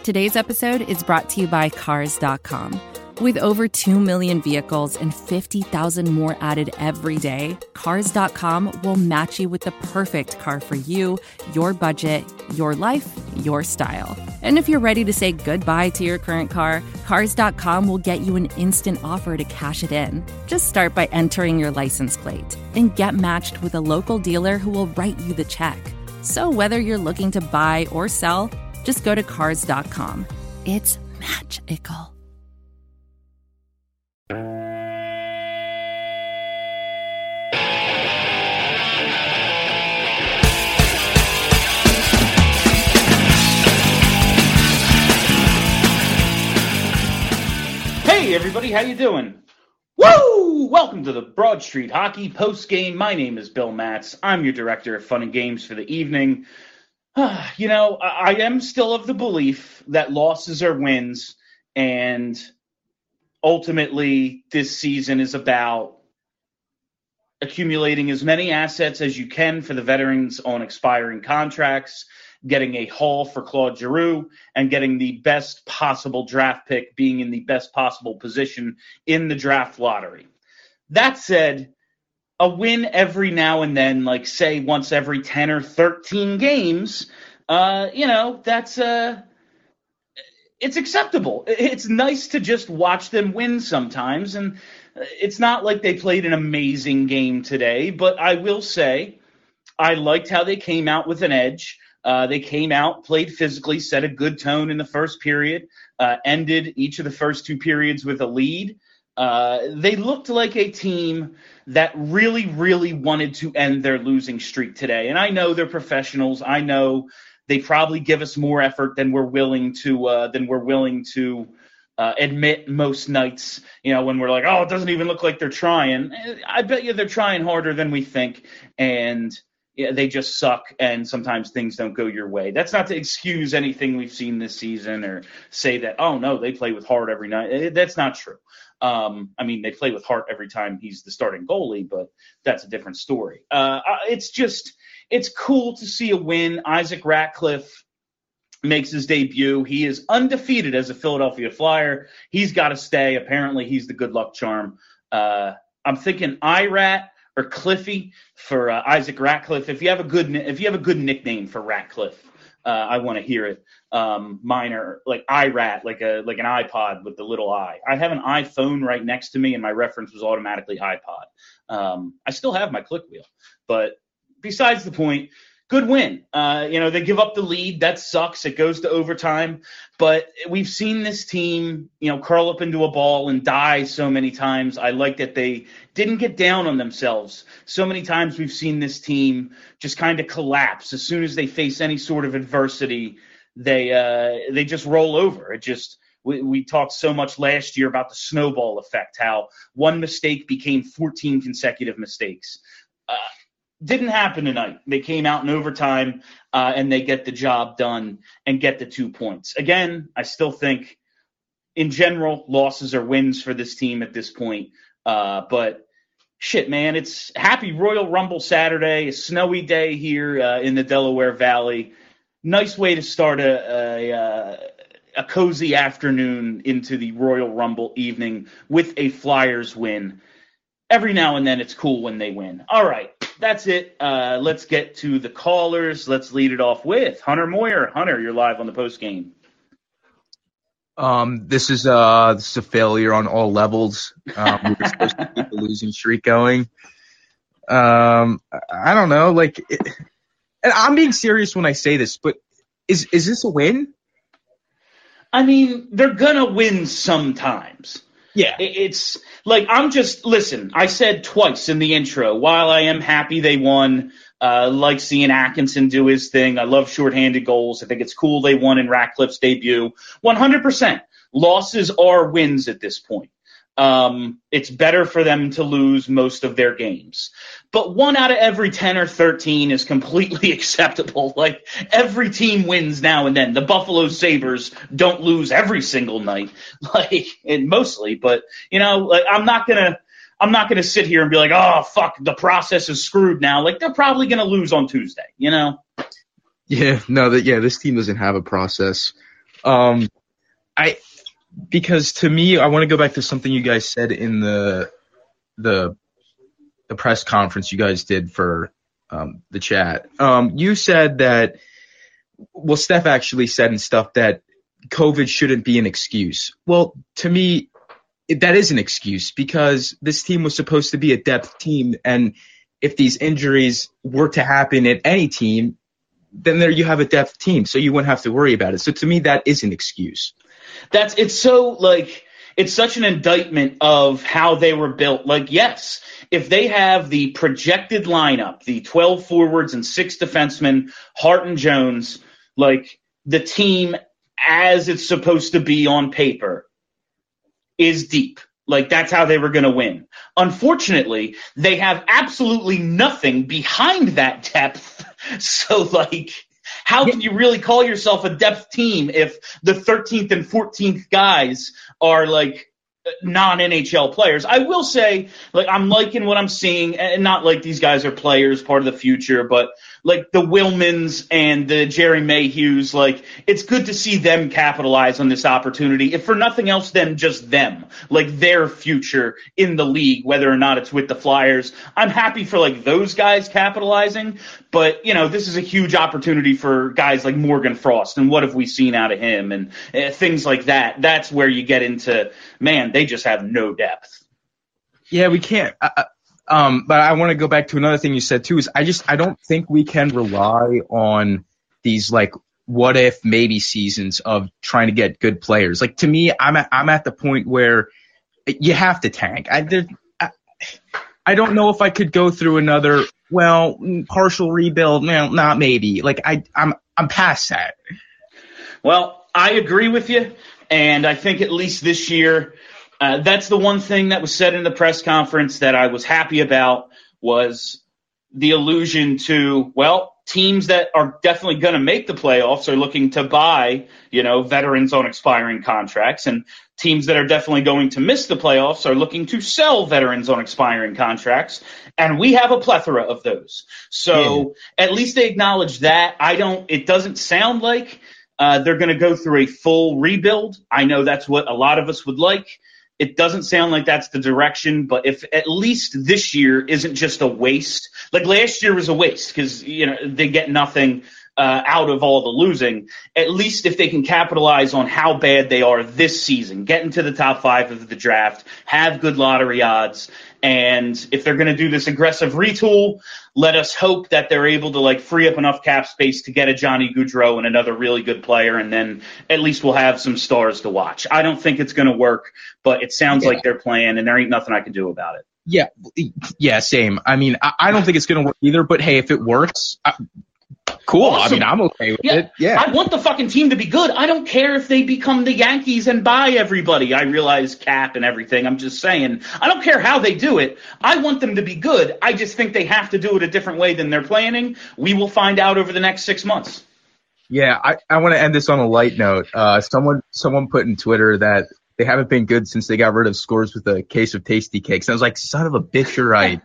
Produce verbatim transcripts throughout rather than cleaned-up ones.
Today's episode is brought to you by Cars dot com. With over two million vehicles and fifty thousand more added every day, Cars dot com will match you with the perfect car for you, your budget, your life, your style. And if you're ready to say goodbye to your current car, Cars dot com will get you an instant offer to cash it in. Just start by entering your license plate and get matched with a local dealer who will write you the check. So whether you're looking to buy or sell, just go to Cars dot com. It's magical. Hey everybody, how you doing? Woo! Welcome to the Broad Street Hockey Post Game. My name is Bill Matz. I'm your director of fun and games for the evening. You know, I am still of the belief that losses are wins, and ultimately this season is about accumulating as many assets as you can for the veterans on expiring contracts, getting a haul for Claude Giroux, and getting the best possible draft pick, being in the best possible position in the draft lottery. That said, a win every now and then, like say once every ten or thirteen games, uh, you know, that's uh, it's acceptable. It's nice to just watch them win sometimes, and it's not like they played an amazing game today, but I will say I liked how they came out with an edge. Uh, they came out, played physically, set a good tone in the first period, uh, ended each of the first two periods with a lead. Uh, they looked like a team that really, really wanted to end their losing streak today. And I know they're professionals. I know they probably give us more effort than we're willing to uh, than we're willing to uh, admit most nights. You know, when we're like, oh, it doesn't even look like they're trying. I bet you they're trying harder than we think, and yeah, they just suck, and sometimes things don't go your way. That's not to excuse anything we've seen this season or say that, oh, no, they play with heart every night. That's not true. Um, I mean, they play with heart every time he's the starting goalie, but that's a different story. Uh, it's just it's cool to see a win. Isaac Ratcliffe makes his debut. He is undefeated as a Philadelphia Flyer. He's got to stay. Apparently, he's the good luck charm. Uh, I'm thinking I-Rat or Cliffy for uh, Isaac Ratcliffe. If you have a good if you have a good nickname for Ratcliffe, uh, I want to hear it. Um, mine are like I-Rat, like a like an iPod with the little I. I have an iPhone right next to me, and my reference was automatically iPod. Um, I still have my click wheel, but besides the point. Good win. Uh, you know, they give up the lead. That sucks. It goes to overtime. But we've seen this team, you know, curl up into a ball and die so many times. I like that they didn't get down on themselves. So many times we've seen this team just kind of collapse. As soon as they face any sort of adversity, they uh, they just roll over. It just we, we talked so much last year about the snowball effect, how one mistake became fourteen consecutive mistakes. Uh, Didn't happen tonight. They came out in overtime, uh, and they get the job done and get the two points. Again, I still think, in general, losses are wins for this team at this point. Uh, but, shit, man, it's happy Royal Rumble Saturday, a snowy day here uh, in the Delaware Valley. Nice way to start a, a, a, a cozy afternoon into the Royal Rumble evening with a Flyers win. Every now and then it's cool when they win. All right. That's it. Uh, let's get to the callers. Let's lead it off with Hunter Moyer. Hunter, you're live on the post game. Um, this is uh, this is a failure on all levels. Um, we were supposed to keep the losing streak going. Um, I don't know, like, it, and I'm being serious when I say this, but is is this a win? I mean, they're gonna win sometimes. Yeah. It's like, I'm just, listen, I said twice in the intro, while I am happy they won, uh, like seeing Atkinson do his thing. I love shorthanded goals. I think it's cool they won in Ratcliffe's debut. one hundred percent. Losses are wins at this point. Um, it's better for them to lose most of their games. But one out of every ten or thirteen is completely acceptable. Like, every team wins now and then. The Buffalo Sabres don't lose every single night, like, and mostly. But, you know, like, I'm not gonna, I'm not gonna sit here and be like, oh, fuck, the process is screwed now. Like, they're probably gonna lose on Tuesday, you know? Yeah, no, that yeah, this team doesn't have a process. Um, I because to me, I want to go back to something you guys said in the the the press conference you guys did for um, the chat. Um, you said that, well, Steph actually said and stuff that COVID shouldn't be an excuse. Well, to me, it, that is an excuse because this team was supposed to be a depth team, and if these injuries were to happen at any team, then there you have a depth team, so you wouldn't have to worry about it. So to me, that is an excuse. That's it's so like it's such an indictment of how they were built. Like, yes, if they have the projected lineup, the twelve forwards and six defensemen, Hart and Jones, like the team as it's supposed to be on paper is deep. Like, that's how they were going to win. Unfortunately, they have absolutely nothing behind that depth. So, like, how can you really call yourself a depth team if the thirteenth and fourteenth guys are, like, non-N H L players? I will say, like, I'm liking what I'm seeing, and not like these guys are players, part of the future, but like the Willmans and the Jerry Mayhews, like, it's good to see them capitalize on this opportunity, if for nothing else than just them, like their future in the league, whether or not it's with the Flyers. I'm happy for like those guys capitalizing, but you know, this is a huge opportunity for guys like Morgan Frost, and what have we seen out of him, and uh, things like that. That's where you get into, man, they just have no depth. Yeah, we can't. Uh, um, but I want to go back to another thing you said too. Is I just I don't think we can rely on these like what if maybe seasons of trying to get good players. Like, to me, I'm at, I'm at the point where you have to tank. I did. I, I don't know if I could go through another well partial rebuild. No, not maybe. Like I I'm I'm past that. Well, I agree with you, and I think at least this year. Uh, that's the one thing that was said in the press conference that I was happy about, was the allusion to, well, teams that are definitely going to make the playoffs are looking to buy, you know, veterans on expiring contracts, and teams that are definitely going to miss the playoffs are looking to sell veterans on expiring contracts. And we have a plethora of those. So yeah. At least they acknowledge that. I don't, it doesn't sound like uh, they're going to go through a full rebuild. I know that's what a lot of us would like. It doesn't sound like that's the direction, but if at least this year isn't just a waste, like last year was a waste because, you know, they get nothing uh, out of all the losing. At least if they can capitalize on how bad they are this season, get into the top five of the draft, have good lottery odds, and if they're going to do this aggressive retool, let us hope that they're able to like free up enough cap space to get a Johnny Gaudreau and another really good player, and then at least we'll have some stars to watch. I don't think it's going to work, but it sounds yeah. like they're playing, and there ain't nothing I can do about it. Yeah, yeah, same. I mean, I, I don't think it's going to work either, but hey, if it works, I, cool. Awesome. I mean, I'm okay with yeah. it. Yeah. I want the fucking team to be good. I don't care if they become the Yankees and buy everybody. I realize cap and everything. I'm just saying, I don't care how they do it. I want them to be good. I just think they have to do it a different way than they're planning. We will find out over the next six months. Yeah, I, I want to end this on a light note. Uh, someone someone put in Twitter that they haven't been good since they got rid of Scores with a case of Tasty Cakes. And I was like, son of a bitch, you're right.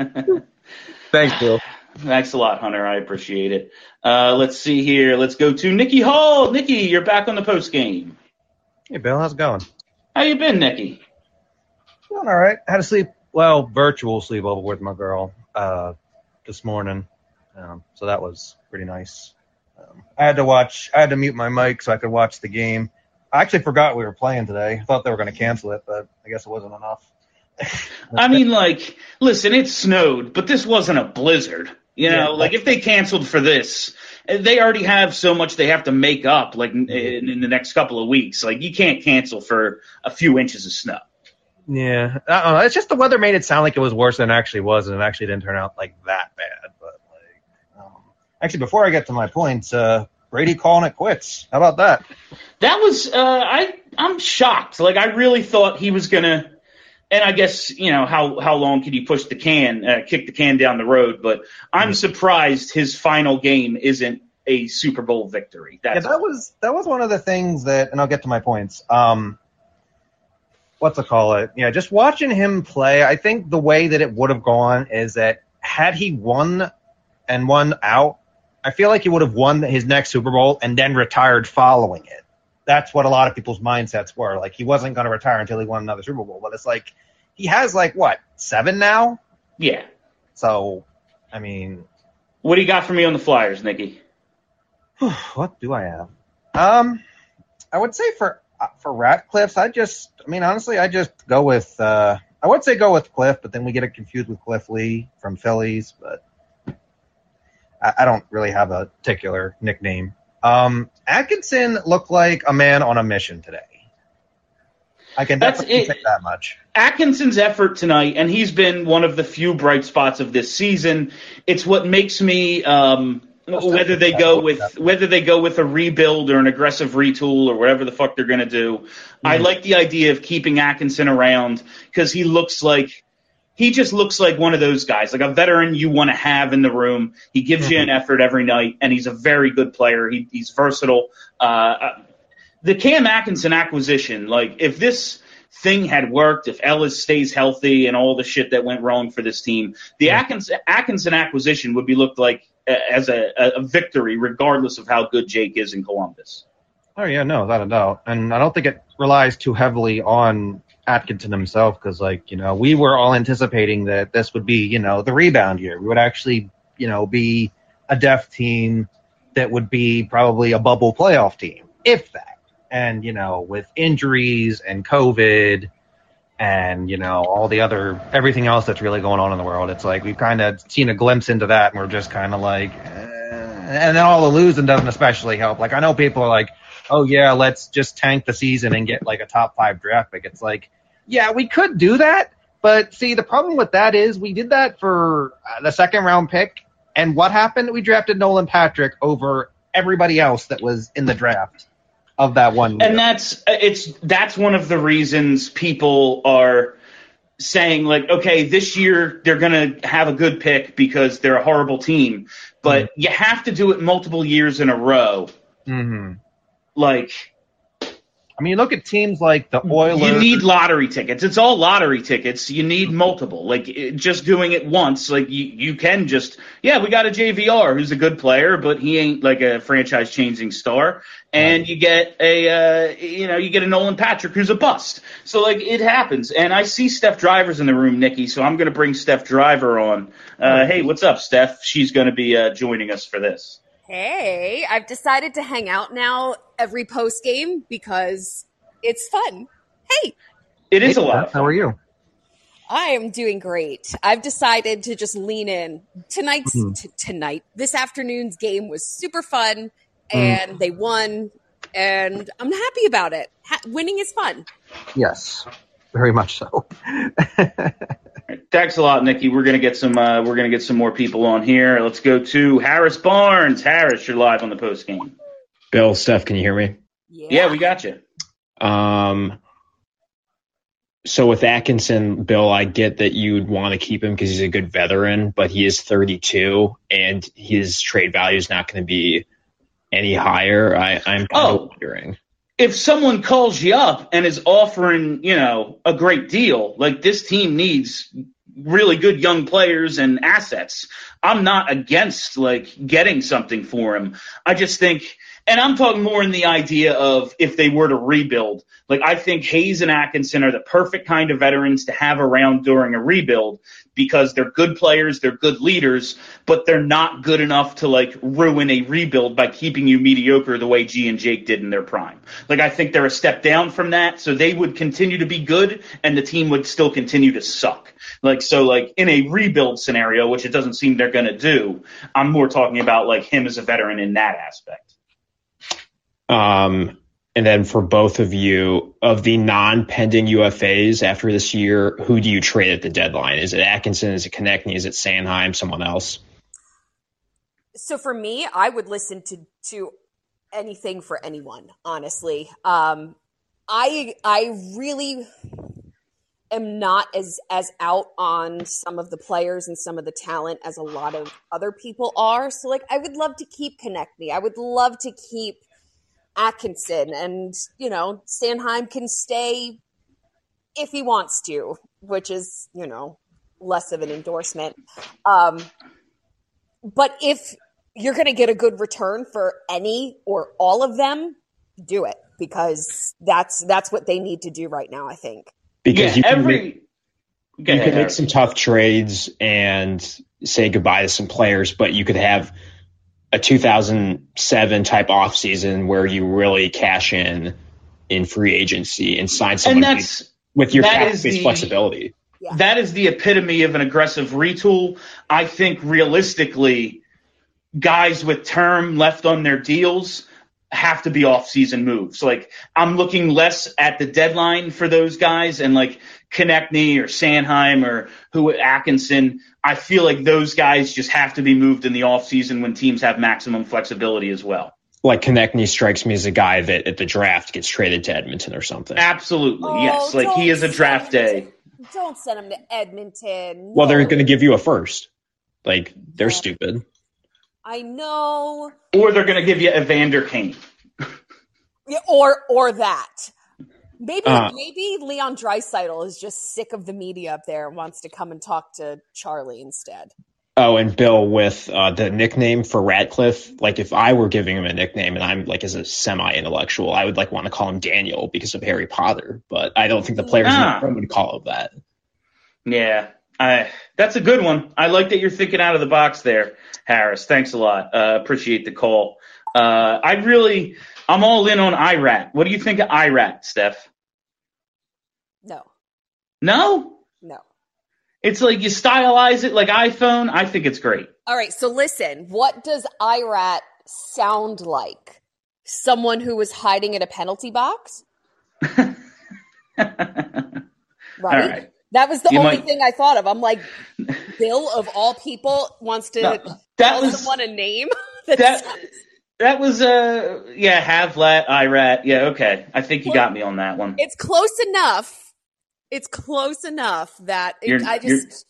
Thanks, Bill. Thanks a lot, Hunter. I appreciate it. Uh, let's see here. Let's go to Nikki Hall. Nikki, you're back on the post game. Hey, Bill. How's it going? How you been, Nikki? Doing all right. Had to sleep, well, virtual sleepover with my girl uh, this morning. Um, so that was pretty nice. Um, I had to watch, I had to mute my mic so I could watch the game. I actually forgot we were playing today. I thought they were going to cancel it, but I guess it wasn't enough. I mean, like, listen, it snowed, but this wasn't a blizzard. You know, yeah, like if they canceled for this, they already have so much they have to make up, like in, in the next couple of weeks. Like, you can't cancel for a few inches of snow. Yeah, I don't know. It's just the weather made it sound like it was worse than it actually was, and it actually didn't turn out like that bad. But like, um, actually, before I get to my points, uh, Brady calling it quits. How about that? That was uh, I. I'm shocked. Like, I really thought he was gonna. And I guess, you know, how, how long can you push the can, uh, kick the can down the road? But I'm mm-hmm. surprised his final game isn't a Super Bowl victory. That's yeah, that was that was one of the things that, and I'll get to my points. Um, what's it call it? Yeah, just watching him play, I think the way that it would have gone is that had he won and won out, I feel like he would have won his next Super Bowl and then retired following it. that's what a lot of people's mindsets were. Like, he wasn't going to retire until he won another Super Bowl. But it's like, he has, like, what, seven now? Yeah. So, I mean. What do you got for me on the Flyers, Nikki? What do I have? Um, I would say for for Ratcliffe's, I just, I mean, honestly, I just go with, uh, I would say go with Cliff, but then we get it confused with Cliff Lee from Phillies, but I, I don't really have a particular nickname. Um, Atkinson looked like a man on a mission today. I can That's definitely it. say that much. Atkinson's effort tonight, and he's been one of the few bright spots of this season. It's what makes me, um, whether they go with whether they go with a rebuild or an aggressive retool or whatever the fuck they're going to do. Mm-hmm. I like the idea of keeping Atkinson around because he looks like he just looks like one of those guys, like a veteran you want to have in the room. He gives mm-hmm. you an effort every night, and he's a very good player. He, he's versatile. Uh, the Cam Atkinson acquisition, like if this thing had worked, if Ellis stays healthy and all the shit that went wrong for this team, the yeah. Atkinson, Atkinson acquisition would be looked like as a, a victory, regardless of how good Jake is in Columbus. Oh, yeah, no, without a doubt. And I don't think it relies too heavily on Atkinson himself because, like, you know, we were all anticipating that this would be, you know, the rebound year. We would actually, you know, be a def team that would be probably a bubble playoff team, if that. And, you know, with injuries and COVID and, you know, all the other, everything else that's really going on in the world, it's like we've kind of seen a glimpse into that and we're just kind of like, eh. And then all the losing doesn't especially help. Like, I know people are like, oh, yeah, let's just tank the season and get like a top five draft pick. It's like, yeah, we could do that. But see, the problem with that is we did that for the second round pick. And what happened? We drafted Nolan Patrick over everybody else that was in the draft of that one year. And that's it's that's one of the reasons people are saying, like, okay, this year they're going to have a good pick because they're a horrible team. But mm-hmm. you have to do it multiple years in a row. Mm-hmm. Like, I mean, look at teams like the Oilers. You need lottery tickets. It's all lottery tickets. You need multiple. Like, it, just doing it once, like, you, you can just, yeah, we got a J V R who's a good player, but he ain't, like, a franchise-changing star. And right. you get a, uh, you know, you get a Nolan Patrick who's a bust. So, like, it happens. And I see Steph Driver's in the room, Nikki, so I'm going to bring Steph Driver on. Uh, hey, what's up, Steph? She's going to be uh, joining us for this. Hey, I've decided to hang out now every post game because it's fun. Hey. It is hey, a lot. How are you? I am doing great. I've decided to just lean in. Tonight's mm. t- tonight, this afternoon's game was super fun and mm. they won and I'm happy about it. Ha- winning is fun. Yes. Very much so. Thanks a lot, Nikki. We're gonna get some. Uh, we're gonna get some more people on here. Let's go to Harris Barnes. Harris, you're live on the post game. Bill, Steph, can you hear me? Yeah, yeah we got you. Um. So with Atkinson, Bill, I get that you'd want to keep him because he's a good veteran, but he is thirty-two, and his trade value is not going to be any higher. I, I'm kind oh. of wondering. If someone calls you up and is offering, you know, a great deal, like this team needs really good young players and assets. I'm not against, like, getting something for him. I just think, and I'm talking more in the idea of if they were to rebuild. Like, I think Hayes and Atkinson are the perfect kind of veterans to have around during a rebuild because they're good players, they're good leaders, but they're not good enough to, like, ruin a rebuild by keeping you mediocre the way G and Jake did in their prime. Like, I think they're a step down from that, so they would continue to be good, and the team would still continue to suck. Like, so, like, in a rebuild scenario, which it doesn't seem they're going to do, I'm more talking about, like, him as a veteran in that aspect. Um, and then for both of you, of the non-pending U F As after this year, who do you trade at the deadline? Is it Atkinson? Is it Konechny? Is it Sanheim? Someone else? So for me, I would listen to to anything for anyone, honestly. Um, I I really am not as as out on some of the players and some of the talent as a lot of other people are. So, like, I would love to keep Konechny. I would love to keep Atkinson, and, you know, Sanheim can stay if he wants to, which is, you know, less of an endorsement. Um, but if you're going to get a good return for any or all of them, do it. because that's that's what they need to do right now, I think. Because yeah, you can every make, Go you ahead, could make Harry. some tough trades and say goodbye to some players, but you could have a two thousand seven type offseason where you really cash in in free agency and sign someone And that's with your that cap is space the- flexibility. Yeah. That is the epitome of an aggressive retool. I think realistically, guys with term left on their deals have to be off-season moves. Like, I'm looking less at the deadline for those guys, and like Konechny or Sanheim or who Atkinson, I feel like those guys just have to be moved in the off-season when teams have maximum flexibility as well. Like Konechny strikes me as a guy that at the draft gets traded to Edmonton or something. Absolutely, Oh, yes. Like, he don't is a draft send him day. to- Don't send him to Edmonton. Well, they're No. going to give you a first. Like, they're Yeah. stupid. I know. Or they're going to give you Evander Kane. Yeah, or or that. Maybe Uh. maybe Leon Draisaitl is just sick of the media up there and wants to come and talk to Charlie instead. Oh, and Bill, with uh, the nickname for Ratcliffe, like if I were giving him a nickname and I'm like as a semi-intellectual, I would like want to call him Daniel because of Harry Potter, but I don't think the players Ah. in the room would call him that. Yeah, I, that's a good one. I like that you're thinking out of the box there, Harris. Thanks a lot. Uh, appreciate the call. Uh, I really, I'm all in on I RAT. What do you think of I RAT, Steph? No, No? no. It's like you stylize it like iPhone. I think it's great. All right, so listen, what does I RAT sound like? Someone who was hiding in a penalty box? Right? right. That was the You only might- thing I thought of. I'm like, Bill, of all people, wants to No, that tell was- someone a name? that That sounds- that was uh yeah, Havlat, I RAT. Yeah, okay. I think you got me on that one. It's close enough. It's close enough that it, You're- I you're- just,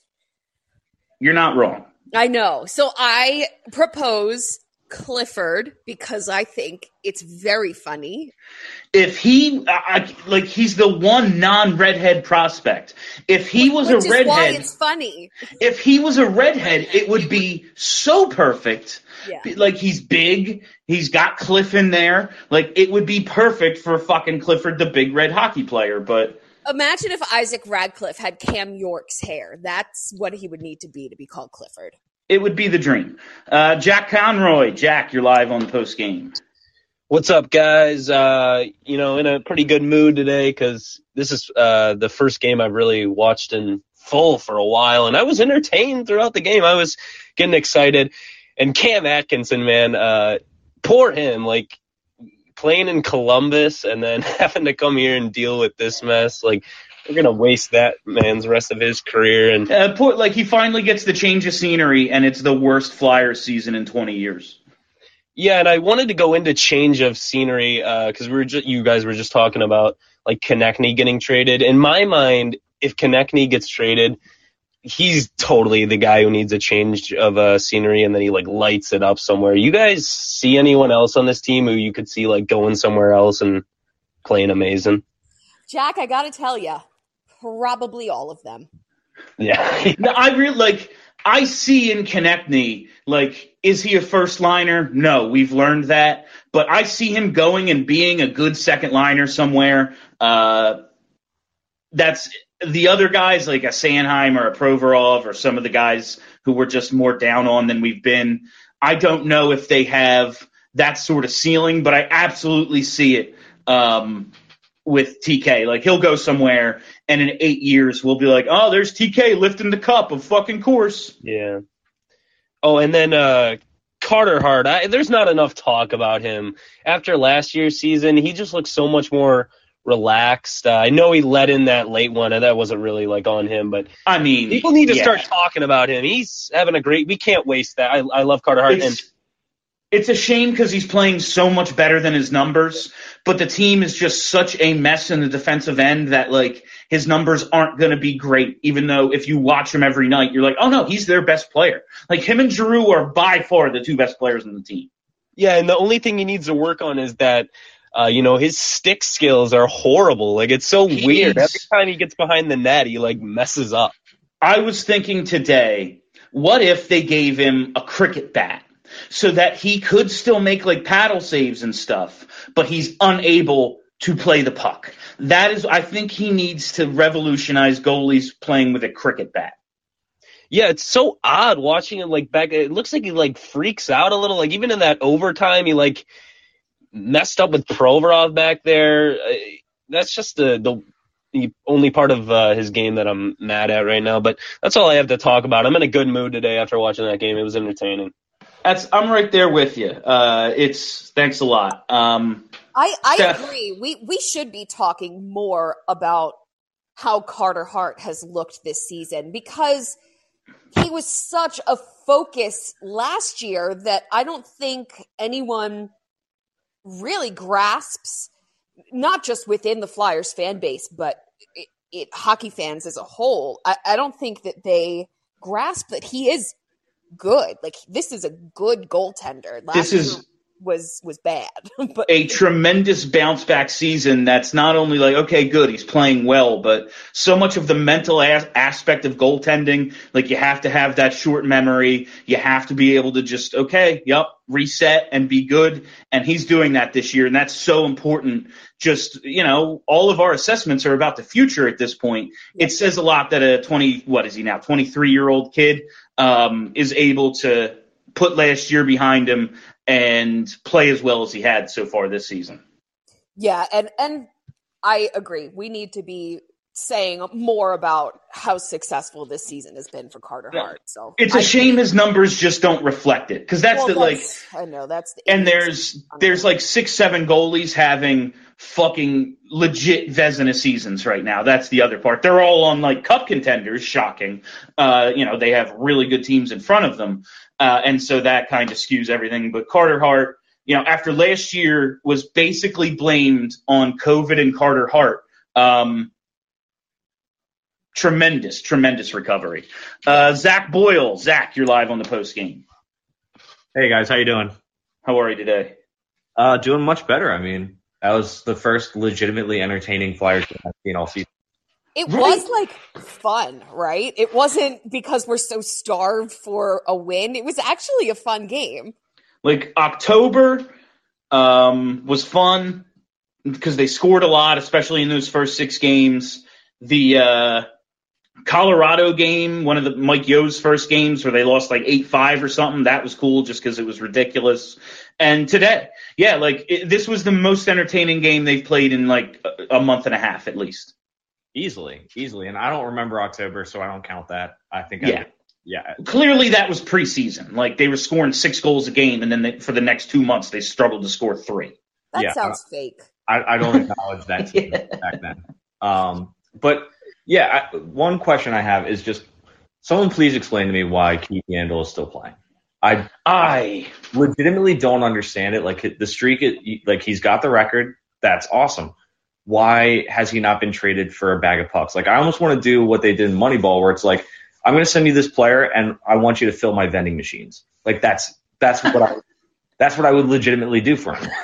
You're not wrong. I know. So I propose Clifford because I think it's very funny. If he, I, I- like, he's the one non-redhead prospect. If he was which a is why redhead, it's funny. if he was a redhead, it would be so perfect. Yeah. Like, he's big, he's got Cliff in there. Like, it would be perfect for fucking Clifford, the big red hockey player. But Imagine if Isaac Radcliffe had Cam York's hair. That's what he would need to be to be called Clifford. it would be the dream. Uh, Jack Conroy, Jack, you're live on the post game. What's up, guys? Uh, you know, in a pretty good mood today because this is uh, the first game I've really watched in full for a while, and I was entertained throughout the game. I was getting excited. And Cam Atkinson, man, uh, poor him, like playing in Columbus and then having to come here and deal with this mess. Like, we're going to waste that man's rest of his career. And Uh, poor, like, he finally gets the change of scenery, and it's the worst Flyers season in twenty years. yeah, and I wanted to go into change of scenery because we were just, you guys were just talking about like Konechny getting traded. In my mind, if Konechny gets traded, he's totally the guy who needs a change of uh, scenery, and then he like lights it up somewhere. You guys see anyone else on this team who you could see like going somewhere else and playing amazing? Jack, I got to tell you, probably all of them. Yeah. No, I really like. I see in Konechny, like, is he a first liner? No, we've learned that. But I see him going and being a good second liner somewhere. Uh, that's the other guys, like a Sanheim or a Provorov or some of the guys who we're just more down on than we've been. I don't know if they have that sort of ceiling, but I absolutely see it um, with T K. Like, he'll go somewhere, and in eight years we'll be like, oh, there's T K lifting the cup of fucking course. Yeah. Oh, and then uh, Carter Hart. I, there's not enough talk about him. After last year's season, he just looks so much more relaxed. Uh, I know he let in that late one, and that wasn't really like on him, but I mean, people need to yeah. start talking about him. He's having a great. We can't waste that. I, I love Carter Hart. And It's, it's a shame because he's playing so much better than his numbers, but the team is just such a mess in the defensive end that, like, his numbers aren't going to be great, even though if you watch him every night, you're like, oh, no, he's their best player. Like, him and Giroux are by far the two best players in the team. yeah, and the only thing he needs to work on is that. Uh, you know, his stick skills are horrible. Like, it's so He weird. needs- Every time he gets behind the net, he, like, messes up. I was thinking today, what if they gave him a cricket bat? so that he could still make like paddle saves and stuff, but he's unable to play the puck. That is, I think he needs to revolutionize goalies playing with a cricket bat. Yeah, it's so odd watching him like back. It looks like he like freaks out a little. Like even in that overtime, he like messed up with Provorov back there. That's just the the, the only part of uh, his game that I'm mad at right now. But that's all I have to talk about. I'm in a good mood today after watching that game. It was entertaining. That's I'm right there with you. Uh, it's thanks a lot. Um, I I Steph, agree. We we should be talking more about how Carter Hart has looked this season, because he was such a focus last year that I don't think anyone really grasps, not just within the Flyers fan base, but it, it, hockey fans as a whole. I, I don't think that they grasp that he is good. Like, this is a good goaltender. Last this is year was was bad. But a tremendous bounce back season. That's not only like, okay, good, he's playing well, but so much of the mental as- aspect of goaltending, like you have to have that short memory. You have to be able to just, okay, yep, reset and be good. And he's doing that this year. And that's so important. Just, you know, all of our assessments are about the future at this point. It says a lot that a twenty, what is he now, twenty-three year old kid um, is able to put last year behind him and play as well as he had so far this season. yeah, and and I agree. We need to be saying more about how successful this season has been for Carter Hart. So it's a I shame think, his numbers just don't reflect it, because that's well, the like. that's- I know that's the And there's there's like six, seven goalies having fucking legit Vezina seasons right now. That's the other part. They're all on like cup contenders. Shocking. Uh, you know, they have really good teams in front of them. Uh, and so that kind of skews everything. But Carter Hart, you know, after last year was basically blamed on COVID and Carter Hart. Um, tremendous, tremendous recovery. Uh, Zach Boyle. Zach, you're live on the post game. Hey guys, how you doing? How are you today? Uh, doing much better. I mean, that was the first legitimately entertaining Flyers game I've seen all season. It Right. was like fun, right? It wasn't because we're so starved for a win. It was actually a fun game. Like October um, was fun because they scored a lot, especially in those first six games. The uh, Colorado game, one of the Mike Yo's first games where they lost like eight five or something, that was cool just because it was ridiculous. And today, yeah, like it, this was the most entertaining game they've played in like a, a month and a half at least. Easily, easily. And I don't remember October, so I don't count that. I think Yeah. I, yeah. Clearly that was preseason. Like they were scoring six goals a game, and then they, for the next two months they struggled to score three. That Yeah, sounds fake. I, I don't acknowledge that team Yeah. back then. Um, but yeah, I, one question I have is just someone please explain to me why Keith Yandle is still playing. I I legitimately don't understand it. Like the streak, it, like he's got the record. That's awesome. Why has he not been traded for a bag of pucks? Like I almost want to do what they did in Moneyball, where it's like, I'm going to send you this player and I want you to fill my vending machines. Like that's, that's what I, that's what I would legitimately do for him.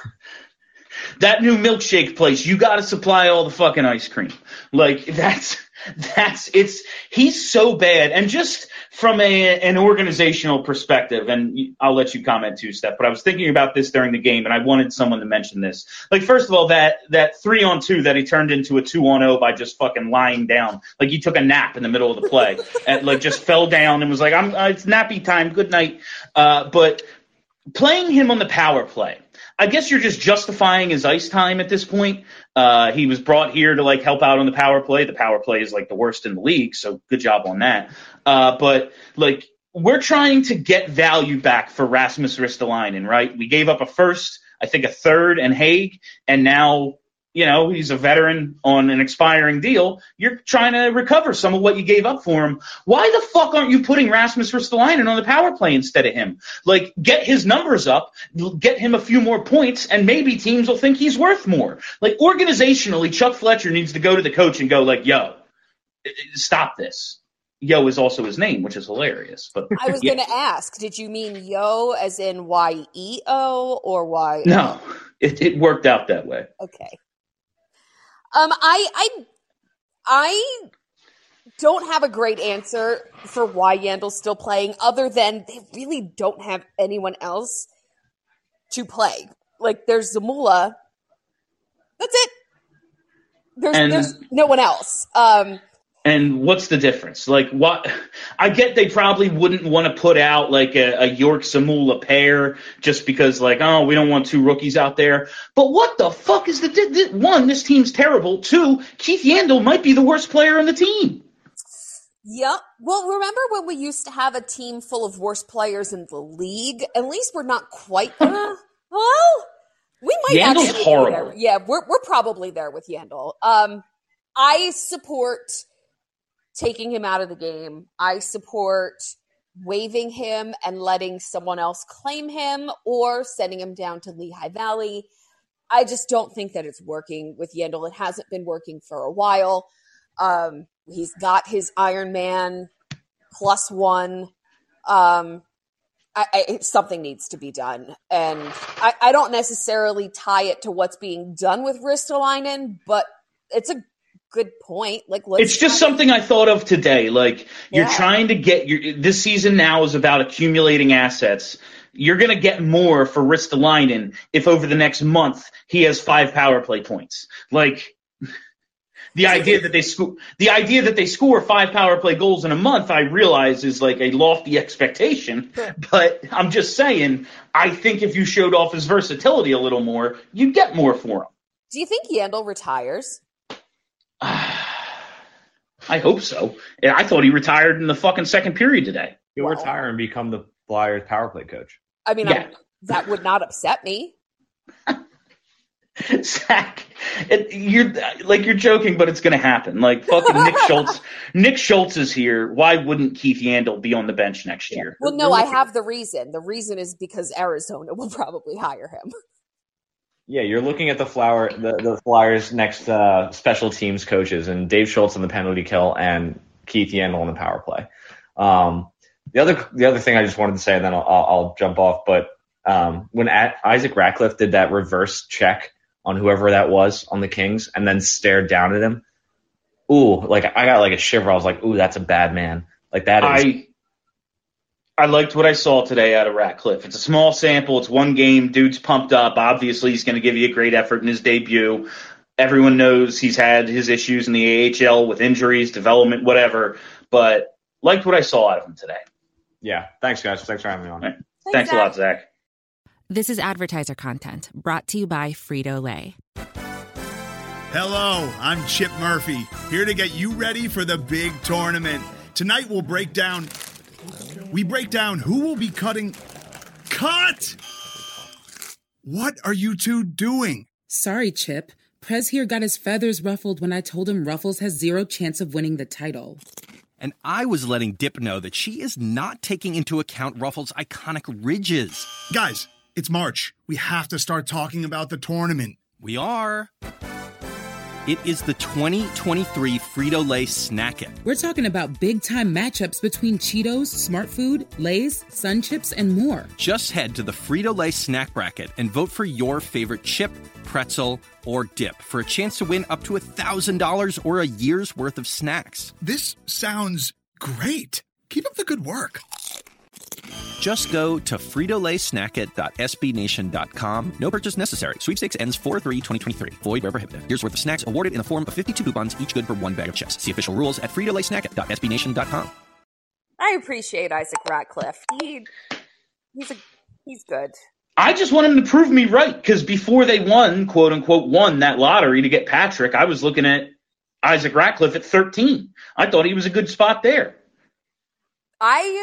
that new milkshake place, you got to supply all the fucking ice cream. Like that's that's it's he's so bad. And just from a an organizational perspective, and I'll let you comment too, Steph, but I was thinking about this during the game and I wanted someone to mention this. Like first of all, that that three on two that he turned into a two on oh by just fucking lying down. Like he took a nap in the middle of the play and like just fell down and was like, I'm uh, it's nappy time, good night. Uh, but playing him on the power play, I guess you're just justifying his ice time at this point. Uh, he was brought here to like help out on the power play. The power play is like the worst in the league, so good job on that. Uh, but like we're trying to get value back for Rasmus Ristolainen, right? We gave up a first, I think a third, and Haig, and now you know he's a veteran on an expiring deal. You're trying to recover some of what you gave up for him. Why the fuck aren't you putting Rasmus Ristolainen on the power play instead of him? Like, get his numbers up, get him a few more points, and maybe teams will think he's worth more. Like, organizationally, Chuck Fletcher needs to go to the coach and go like, yo, stop this. Yo is also his name, which is hilarious. But I was yeah. going to ask, did you mean yo as in Y E O or Y? No, it, it worked out that way. Okay. Um, I, I, I don't have a great answer for why Yandle's still playing, other than they really don't have anyone else to play. Like, there's Zamula. That's it. There's And- there's no one else. Um, And what's the difference? Like, what? I get they probably wouldn't want to put out like a, a York Zamula pair just because, like, oh, we don't want two rookies out there. But what the fuck is the di- di- one? This team's terrible. Two, Keith Yandle might be the worst player on the team. Yep. Well, remember when we used to have a team full of worst players in the league? At least we're not quite there. Well, we might Yandle's actually horrible. be there. Yeah, we're we're probably there with Yandle. Um, I support taking him out of the game. I support waiving him and letting someone else claim him or sending him down to Lehigh Valley. I just don't think that it's working with Yandle. It hasn't been working for a while. Um, he's got his Iron Man plus one. Um, I, I, something needs to be done. And I, I don't necessarily tie it to what's being done with Ristolainen, but it's a good point. Like, let's It's just something I thought of today. Like, you're Yeah. trying to get your this season now is about accumulating assets. You're going to get more for Ristolainen if over the next month he has five power play points. Like, the idea that they score the idea that they score five power play goals in a month, I realize is like a lofty expectation. But I'm just saying, I think if you showed off his versatility a little more, you'd get more for him. Do you think Yandle retires? I hope so. And I thought he retired in the fucking second period today. He'll Well- retire and become the Flyers power play coach. I mean, Yeah. I'm- that would not upset me. Zach, it, you're like you're joking, but it's going to happen. Like fucking Nick Schultz. Nick Schultz is here. Why wouldn't Keith Yandle be on the bench next year? Well, no, I have the reason. The reason is because Arizona will probably hire him. Yeah, you're looking at the flower, the, the Flyers' next uh, special teams coaches, and Dave Schultz on the penalty kill, and Keith Yandle on the power play. Um, the other, the other thing I just wanted to say, and then I'll, I'll, I'll jump off. But um, when at, Isaac Ratcliffe did that reverse check on whoever that was on the Kings, and then stared down at him, ooh, like I got like a shiver. I was like, ooh, that's a bad man. Like that is. I I liked what I saw today out of Ratcliffe. It's a small sample. It's one game. Dude's pumped up. Obviously, he's going to give you a great effort in his debut. Everyone knows he's had his issues in the A H L with injuries, development, whatever. But liked what I saw out of him today. Yeah, thanks guys. Thanks for having me on. Right. Thanks a lot, Zach. This is advertiser content brought to you by Frito-Lay. Hello, I'm Chip Murphy, here to get you ready for the big tournament. Tonight we'll break down... We break down who will be cutting... Cut! What are you two doing? Sorry, Chip. Prez here got his feathers ruffled when I told him Ruffles has zero chance of winning the title. And I was letting Dip know that she is not taking into account Ruffles' iconic ridges. Guys, it's March. We have to start talking about the tournament. We are. It is the twenty twenty-three Frito-Lay Snack It. We're talking about big-time matchups between Cheetos, Smart Food, Lay's, Sun Chips, and more. Just head to the Frito-Lay Snack Bracket and vote for your favorite chip, pretzel, or dip for a chance to win up to one thousand dollars or a year's worth of snacks. This sounds great. Keep up the good work. Just go to Frito Lay Snack It dot S B Nation dot com. No purchase necessary. Sweepstakes ends four three twenty twenty-three. Void where prohibited. Here's worth of snacks awarded in the form of fifty-two coupons, each good for one bag of chips. See official rules at Frito Lay Snack It dot S B Nation dot com. I appreciate Isaac Ratcliffe. He, he's a, he's good. I just want him to prove me right, because before they won, quote unquote, won that lottery to get Patrick, I was looking at Isaac Ratcliffe at thirteen. I thought he was a good spot there. I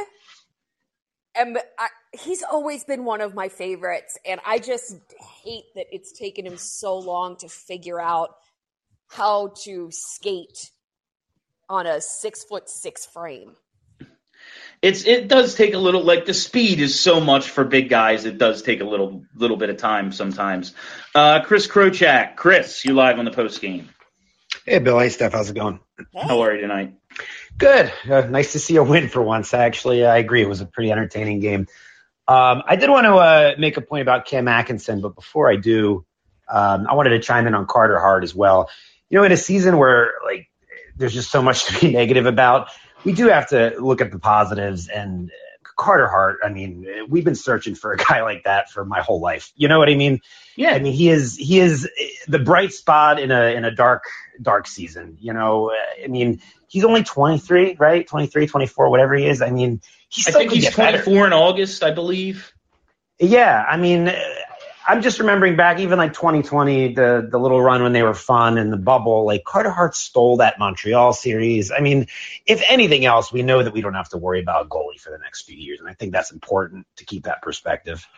am. I, he's always been one of my favorites, and I just hate that it's taken him so long to figure out how to skate on a six foot six frame. It's it does take a little, like the speed is so much for big guys. It does take a little little bit of time sometimes. Uh, Chris Krochak, Chris, you live on the post game. Hey, Bill. Hey, Steph. How's it going? How are you tonight? Good. Uh, nice to see a win for once. Actually, I agree. It was a pretty entertaining game. Um, I did want to uh, make a point about Cam Atkinson, but before I do, um, I wanted to chime in on Carter Hart as well. You know, in a season where like there's just so much to be negative about. We do have to look at the positives. And Carter Hart, I mean, we've been searching for a guy like that for my whole life. You know what I mean? Yeah. I mean, he is he is the bright spot in a in a dark dark season. You know, I mean, he's only twenty-three, right? twenty-three, twenty-four, whatever he is. I mean, he's I still think could he's get better. twenty-four in August, I believe. Yeah, I mean, I'm just remembering back even like twenty twenty, the the little run when they were fun and the bubble. Like Carter Hart stole that Montreal series. I mean, if anything else, we know that we don't have to worry about a goalie for the next few years, and I think that's important to keep that perspective.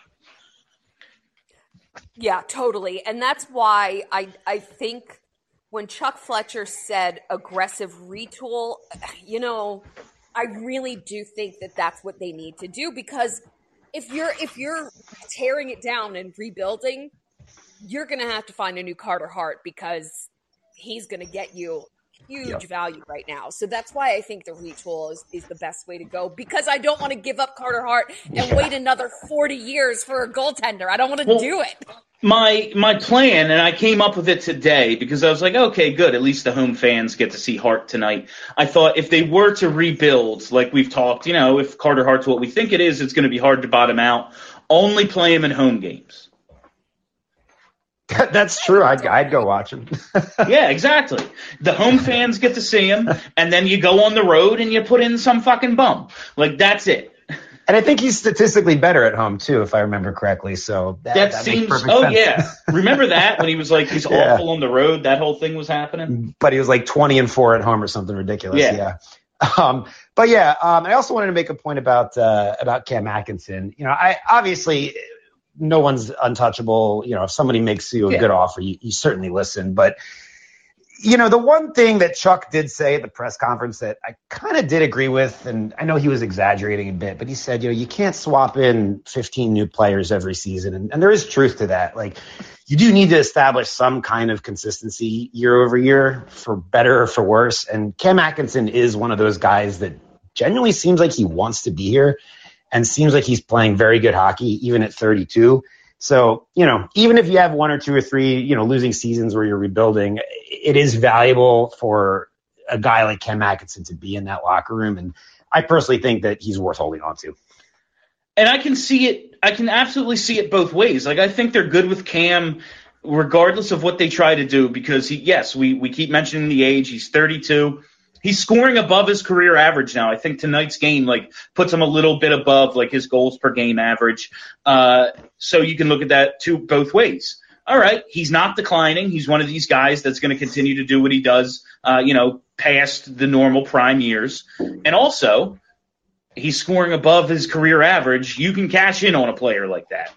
Yeah, totally. And that's why I I think when Chuck Fletcher said aggressive retool, you know, I really do think that that's what they need to do, because if you're if you're tearing it down and rebuilding, you're going to have to find a new Carter Hart, because he's going to get you huge yep. value right now. So that's why I think the retool is, is the best way to go, because I don't want to give up Carter Hart and yeah. wait another forty years for a goaltender. I don't want to well, do it. My my plan, and I came up with it today because I was like, okay, good. At least the home fans get to see Hart tonight. I thought if they were to rebuild, like we've talked, you know, if Carter Hart's what we think it is, it's going to be hard to bottom out. Only play him in home games. That's true. I'd, I'd go watch him. Yeah, exactly. The home fans get to see him, and then you go on the road and you put in some fucking bum. Like, that's it. And I think he's statistically better at home, too, if I remember correctly. So that, that, that seems – makes oh, sense. yeah. Remember that when he was like, he's yeah. awful on the road? That whole thing was happening? But he was like twenty and four at home or something ridiculous. Yeah. yeah. Um, but, yeah, um, I also wanted to make a point about uh, about Cam Atkinson. You know, I obviously – no one's untouchable. You know, if somebody makes you a yeah. good offer, you, you certainly listen. But, you know, the one thing that Chuck did say at the press conference that I kind of did agree with, and I know he was exaggerating a bit, but he said, you know, you can't swap in fifteen new players every season. And, and there is truth to that. Like, you do need to establish some kind of consistency year over year, for better or for worse. And Cam Atkinson is one of those guys that genuinely seems like he wants to be here, and seems like he's playing very good hockey, even at thirty-two. So, you know, even if you have one or two or three, you know, losing seasons where you're rebuilding, it is valuable for a guy like Cam Atkinson to be in that locker room. And I personally think that he's worth holding on to. And I can see it. I can absolutely see it both ways. Like, I think they're good with Cam regardless of what they try to do, because he, yes, we, we keep mentioning the age. He's thirty-two. He's scoring above his career average now. I think tonight's game, like, puts him a little bit above, like, his goals per game average. Uh, so you can look at that two both ways. All right, he's not declining. He's one of these guys that's going to continue to do what he does, uh, you know, past the normal prime years. And also, he's scoring above his career average. You can cash in on a player like that.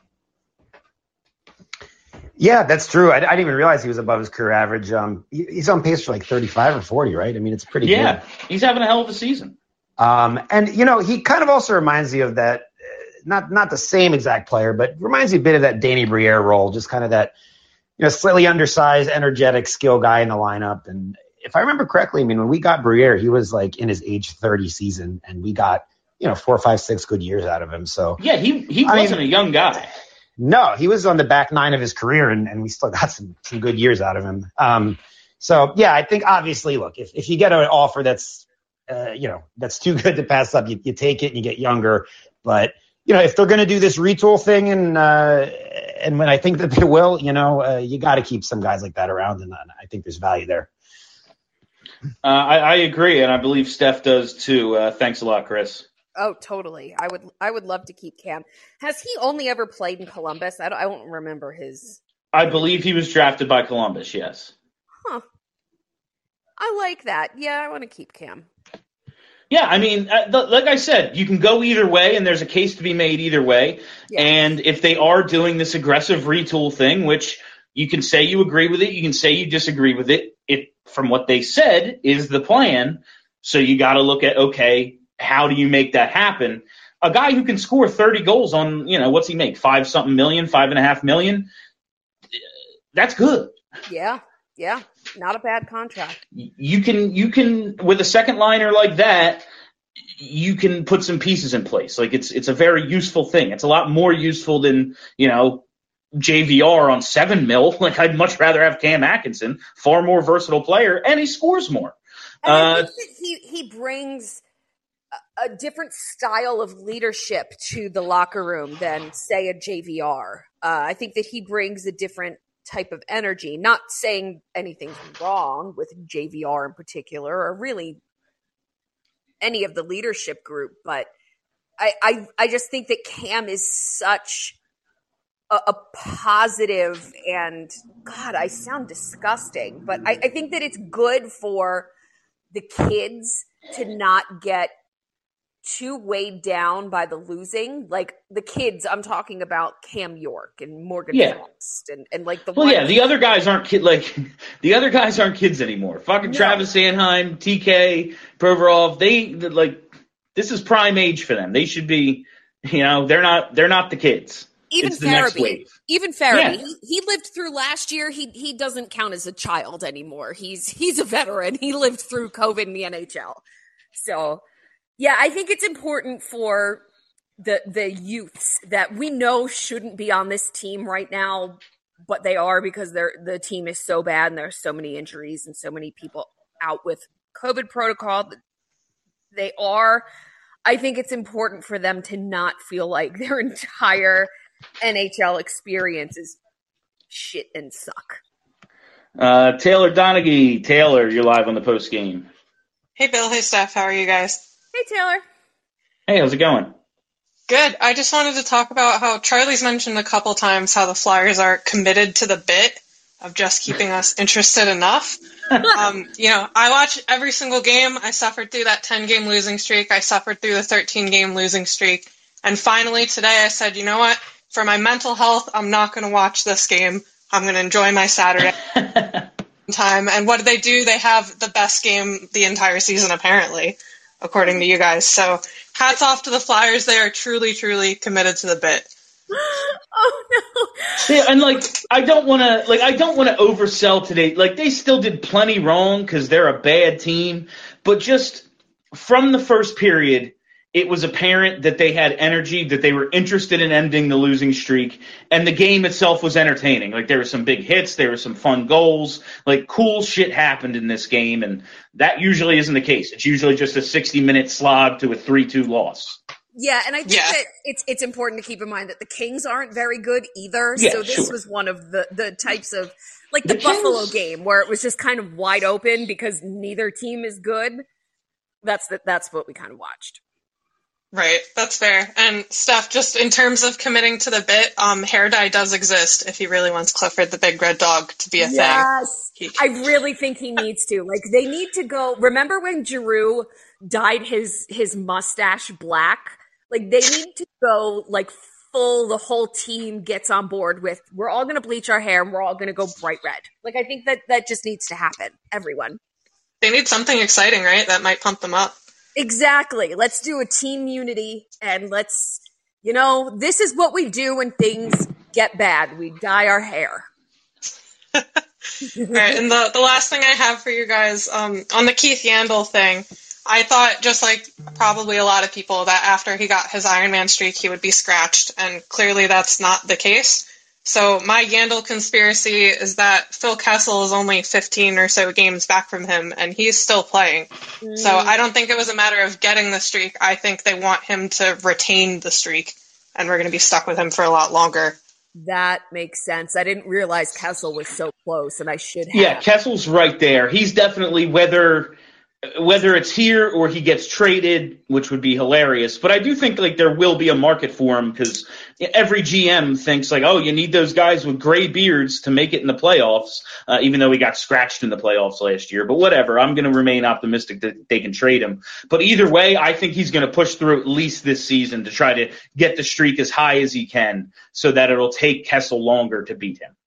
Yeah, that's true. I, I didn't even realize he was above his career average. Um, he, he's on pace for like thirty-five or forty, right? I mean, it's pretty yeah, good. Yeah, he's having a hell of a season. Um, and, you know, he kind of also reminds me of that, uh, not not the same exact player, but reminds me a bit of that Danny Briere role, just kind of that, you know, slightly undersized, energetic, skill guy in the lineup. And if I remember correctly, I mean, when we got Briere, he was like in his age thirty season, and we got, you know, four, five, six good years out of him. So yeah, he he I wasn't mean, a young guy. No, he was on the back nine of his career, and, and we still got some, some good years out of him. Um, so, yeah, I think obviously, look, if, if you get an offer that's, uh, you know, that's too good to pass up, you, you take it and you get younger. But, you know, if they're going to do this retool thing, and uh, and when I think that they will, you know, uh, you got to keep some guys like that around, and I think there's value there. Uh, I, I agree, and I believe Steph does too. Uh, thanks a lot, Chris. Oh, totally. I would I would love to keep Cam. Has he only ever played in Columbus? I don't, I don't remember his. I believe he was drafted by Columbus, yes. Huh. I like that. Yeah, I want to keep Cam. Yeah, I mean, uh, like I said, you can go either way, and there's a case to be made either way. Yeah. And if they are doing this aggressive retool thing, which you can say you agree with it, you can say you disagree with it, it from what they said is the plan. So you got to look at, okay, how do you make that happen? A guy who can score thirty goals on, you know, what's he make? Five something million, five and a half million. That's good. Yeah. Yeah. Not a bad contract. You can, you can, with a second liner like that, you can put some pieces in place. Like it's, it's a very useful thing. It's a lot more useful than, you know, J V R on seven mil. Like I'd much rather have Cam Atkinson, far more versatile player, and he scores more. And I Uh, think that he, he brings a, a different style of leadership to the locker room than, say, a J V R. Uh, I think that he brings a different type of energy. Not saying anything's wrong with J V R in particular, or really any of the leadership group, but I, I, I just think that Cam is such a, a positive and, God, I sound disgusting, but I, I think that it's good for the kids to not get too weighed down by the losing. Like the kids, I'm talking about Cam York and Morgan Yeah. Frost and, and like the well, ones- yeah, the other guys aren't kid like the other guys aren't kids anymore. Fucking No. Travis Sanheim, T K, Provorov, they like this is prime age for them. They should be, you know, they're not they're not the kids. Even It's the next Farabee, wave. even Farabee, Yeah. he, he lived through last year. He he doesn't count as a child anymore. He's he's a veteran. He lived through COVID in the N H L. So, yeah, I think it's important for the the youths that we know shouldn't be on this team right now, but they are because they're the team is so bad and there are so many injuries and so many people out with COVID protocol. They are. I think it's important for them to not feel like their entire N H L experience is shit and suck. Uh, Taylor Donaghy, Taylor, you're live on the post game. Hey, Bill. Hey, Steph. How are you guys? Hey, Taylor. Hey, how's it going? Good. I just wanted to talk about how Charlie's mentioned a couple times how the Flyers are committed to the bit of just keeping us interested enough. um, you know, I watch every single game. I suffered through that ten-game losing streak. I suffered through the thirteen-game losing streak. And finally today I said, you know what? For my mental health, I'm not going to watch this game. I'm going to enjoy my Saturday time. And what did they do? They have the best game the entire season, apparently, according to you guys. So hats off to the Flyers. They are truly, truly committed to the bit. Oh no! Yeah, and like I don't want to, like I don't want to oversell today. Like they still did plenty wrong because they're a bad team, but just from the first period, it was apparent that they had energy, that they were interested in ending the losing streak, and the game itself was entertaining. Like there were some big hits, there were some fun goals, like cool shit happened in this game, and that usually isn't the case. It's usually just a sixty-minute slog to a three two loss. Yeah, and I think Yeah. that it's it's important to keep in mind that the Kings aren't very good either. Yeah, so this sure. was one of the, the types of, like the, The Buffalo Kings- game where it was just kind of wide open because neither team is good. That's the, that's what we kind of watched. Right, that's fair. And Steph, just in terms of committing to the bit, um, hair dye does exist if he really wants Clifford the Big Red Dog to be a Yes, thing. I really think he needs to. Like they need to go. Remember when Giroux dyed his his mustache black? Like they need to go like full. The whole team gets on board with. We're all going to bleach our hair and we're all going to go bright red. Like I think that that just needs to happen. Everyone. They need something exciting, right? That might pump them up. Exactly. Let's do a team unity and let's, you know, this is what we do when things get bad. We dye our hair. All right, and the, the last thing I have for you guys, um, on the Keith Yandel thing, I thought, just like probably a lot of people, that after he got his Iron Man streak, he would be scratched, and clearly that's not the case. So my Yandel conspiracy is that Phil Kessel is only fifteen or so games back from him, and he's still playing. Mm. So I don't think it was a matter of getting the streak. I think they want him to retain the streak, and we're going to be stuck with him for a lot longer. That makes sense. I didn't realize Kessel was so close, and I should have. Yeah, Kessel's right there. He's definitely whether whether it's here or he gets traded, which would be hilarious. But I do think like there will be a market for him because every G M thinks like, oh, you need those guys with gray beards to make it in the playoffs, uh, even though he got scratched in the playoffs last year. But whatever, I'm going to remain optimistic that they can trade him. But either way, I think he's going to push through at least this season to try to get the streak as high as he can so that it'll take Kessel longer to beat him.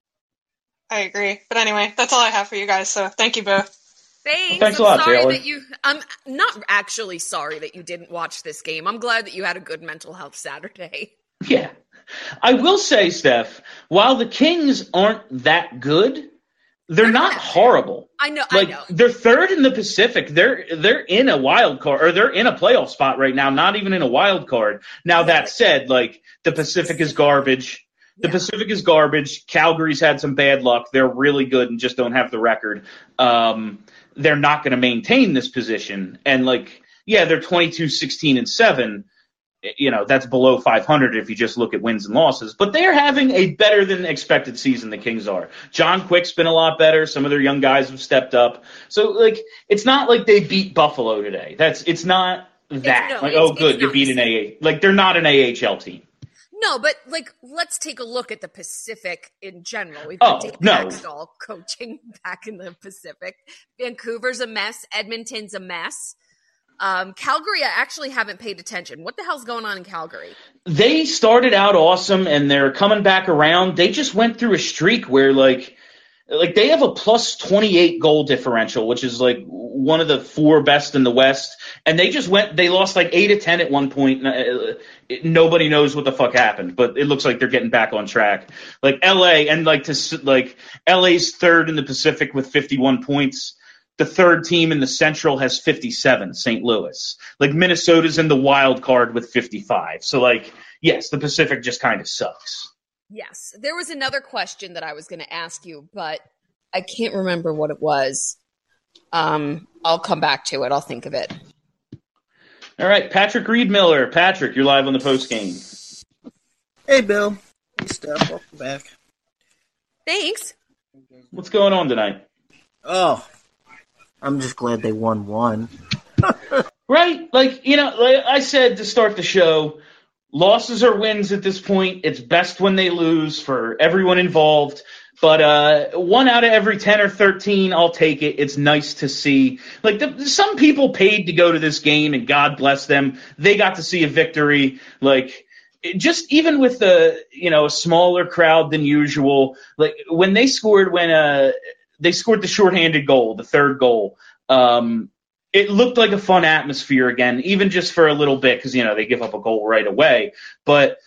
I agree. But anyway, that's all I have for you guys, so thank you both. Thanks. Well, thanks a I'm lot, sorry Taylor. that you. I'm not actually sorry that you didn't watch this game. I'm glad that you had a good mental health Saturday. Yeah. I will say, Steph, while the Kings aren't that good, they're not horrible. I know. Like I know. they're third in the Pacific. They're they're in a wild card or they're in a playoff spot right now, not even in a wild card. Now that said, like the Pacific is garbage. The Pacific is garbage. Calgary's had some bad luck. They're really good and just don't have the record. Um, they're not going to maintain this position. And, like, yeah, they're twenty-two, sixteen, and seven. You know, that's below five hundred if you just look at wins and losses. But they're having a better than expected season, the Kings are. John Quick's been a lot better. Some of their young guys have stepped up. So, like, it's not like they beat Buffalo today. That's It's not that. It's, no, like, it's, oh, good, you not beat an A A. Like, they're not an A H L team. No, but, like, let's take a look at the Pacific in general. We've got Oh, Dave no. Maxtall coaching back in the Pacific. Vancouver's a mess. Edmonton's a mess. Um, Calgary, I actually haven't paid attention. What the hell's going on in Calgary? They started out awesome, and they're coming back around. They just went through a streak where, like, like they have a plus twenty-eight goal differential, which is, like, one of the four best in the West. And they just went – they lost, like, eight to ten at one point. Uh, nobody knows what the fuck happened, but it looks like they're getting back on track. Like, L A – and, like, to like L A's third in the Pacific with fifty-one points. The third team in the Central has fifty-seven, Saint Louis. Like, Minnesota's in the wild card with fifty-five. So, like, yes, the Pacific just kind of sucks. Yes. There was another question that I was going to ask you, but I can't remember what it was. Um, I'll come back to it. I'll think of it. All right, Patrick Reed Miller. Patrick, you're live on the post game. Hey, Bill. Hey, Steph. Welcome back. Thanks. What's going on tonight? Oh, I'm just glad they won one. Right? Like, you know, like I said to start the show, losses are wins at this point. It's best when they lose for everyone involved. But uh, one out of every ten or thirteen, I'll take it. It's nice to see. Like, the, some people paid to go to this game, and God bless them. They got to see a victory. Like, it just even with the, you know, a smaller crowd than usual, like, when they scored, when uh, they scored the shorthanded goal, the third goal, um, it looked like a fun atmosphere again, even just for a little bit, because, you know, they give up a goal right away. But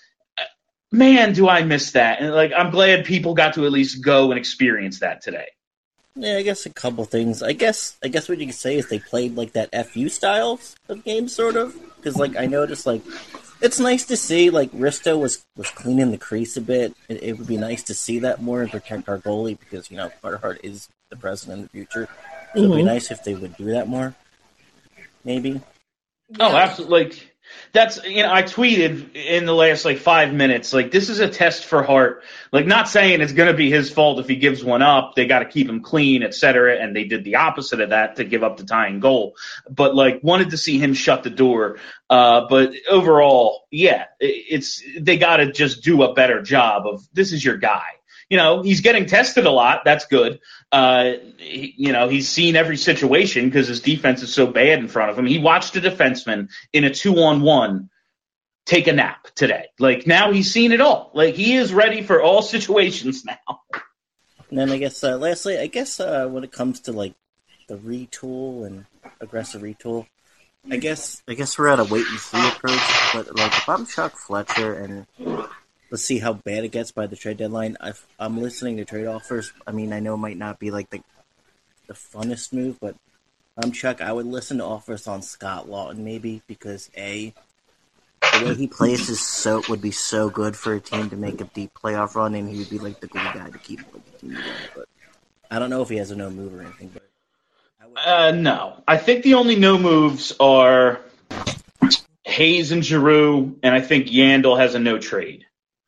man, do I miss that. And, like, I'm glad people got to at least go and experience that today. Yeah, I guess a couple things. I guess I guess what you could say is they played, like, that F U style of game, sort of. Because, like, I noticed, like, it's nice to see, like, Risto was, was cleaning the crease a bit. It, it would be nice to see that more and protect our goalie because, you know, Carter is the president in the future. So mm-hmm. It would be nice if they would do that more. Maybe. Oh, absolutely. Like, that's, you know, I tweeted in the last, like, five minutes, like, this is a test for Hart. Like, not saying it's going to be his fault if he gives one up. They got to keep him clean, et cetera. And they did the opposite of that to give up the tying goal. But, like, wanted to see him shut the door. Uh, but overall, yeah, it's, they got to just do a better job of, this is your guy. You know, he's getting tested a lot. That's good. Uh, he, you know, he's seen every situation because his defense is so bad in front of him. He watched a defenseman in a two-on-one take a nap today. Like, now he's seen it all. Like, he is ready for all situations now. And then I guess, uh, lastly, I guess uh, when it comes to, like, the retool and aggressive retool, I guess I guess we're at a wait-and-see approach. But, like, if I'm Chuck Fletcher and let's see how bad it gets by the trade deadline. I've, I'm listening to trade offers. I mean, I know it might not be like the the funnest move, but I'm Chuck. I would listen to offers on Scott Laughton maybe because A, the way he plays is so would be so good for a team to make a deep playoff run, and he would be like the glue guy to keep like, the team together. But I don't know if he has a no move or anything. But uh, no, I think the only no moves are Hayes and Giroux, and I think Yandel has a no trade.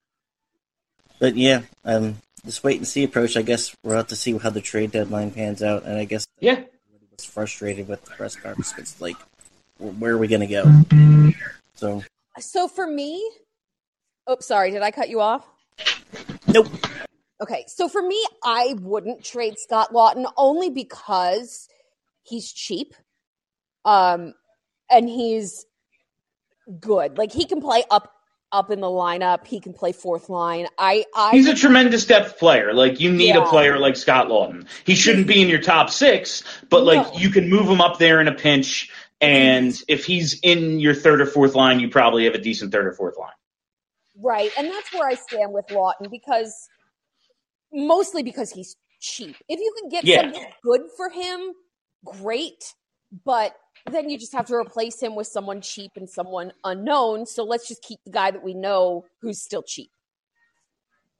But yeah, um, this wait and see approach. I guess we'll have to see how the trade deadline pans out, and I guess yeah, I was frustrated with the press conference. It's like, where are we going to go? So, so for me, oh, sorry, did I cut you off? Nope. Okay, so for me, I wouldn't trade Scott Laughton only because he's cheap, um, and he's good. Like, he can play up. up in the lineup. He can play fourth line. I, I He's a tremendous depth player. Like, you need yeah. a player like Scott Laughton. He shouldn't be in your top six, but, like, no. you can move him up there in a pinch, and if he's in your third or fourth line, you probably have a decent third or fourth line. Right, and that's where I stand with Laughton, because mostly because he's cheap. If you can get yeah. something good for him, great, but then you just have to replace him with someone cheap and someone unknown. So let's just keep the guy that we know who's still cheap.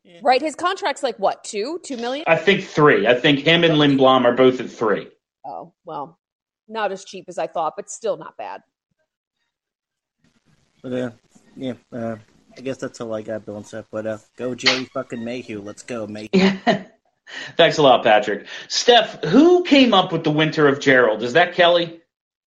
right? His contract's like what, two, two million? I think three. I think him and Lindblom are both at three. Oh, well, not as cheap as I thought, but still not bad. But uh, yeah, uh, I guess that's all I got, Bill and Seth. But uh, go Jerry fucking Mayhew. Let's go, Mayhew. Thanks a lot, Patrick. Steph, who came up with the Winter of Gerald? Is that Kelly?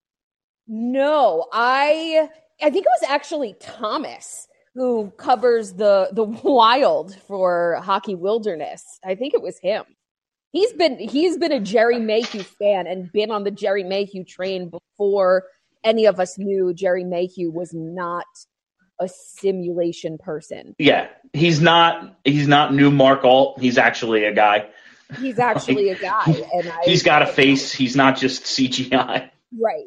No, I I think it was actually Thomas who covers the the Wild for Hockey Wilderness. I think it was him. He's been he's been a Jerry Mayhew fan and been on the Jerry Mayhew train before any of us knew Jerry Mayhew was not a simulation person. Yeah, he's not he's not new Mark Alt. He's actually a guy. He's actually a guy, and I, he's got a face. He's not just C G I. Right.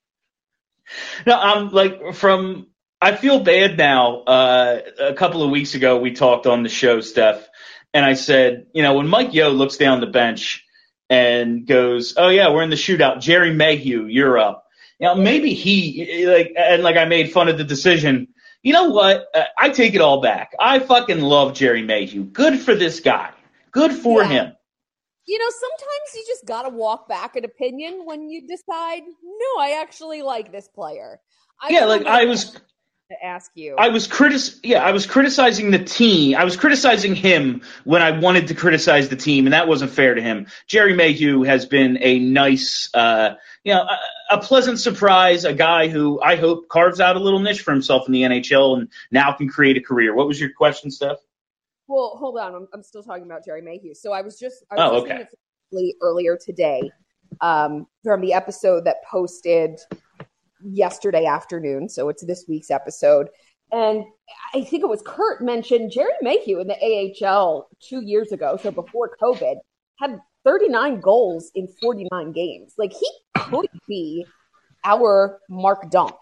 No, I'm like from. I feel bad now. Uh, a couple of weeks ago, we talked on the show, Steph, and I said, you know, when Mike Yeo looks down the bench and goes, "Oh yeah, we're in the shootout. Jerry Mayhew, you're up." You know, maybe he like and like I made fun of the decision. You know what? Uh, I take it all back. I fucking love Jerry Mayhew. Good for this guy. Good for Yeah. him. You know, sometimes you just got to walk back an opinion when you decide, no, I actually like this player. I Yeah, like I was to ask you. I was critic yeah, I was criticizing the team. I was criticizing him when I wanted to criticize the team, and that wasn't fair to him. Jerry Mayhew has been a nice uh you know, a, a pleasant surprise, a guy who I hope carves out a little niche for himself in the N H L and now can create a career. What was your question, Steph? Well, hold on. I'm, I'm still talking about Jerry Mayhew. So I was just, I was Oh, listening okay. to earlier today um, from the episode that posted yesterday afternoon. So it's this week's episode. And I think it was Kurt mentioned Jerry Mayhew in the A H L two years ago. So before COVID had thirty-nine goals in forty-nine games. Like he could be our Mark Dunk.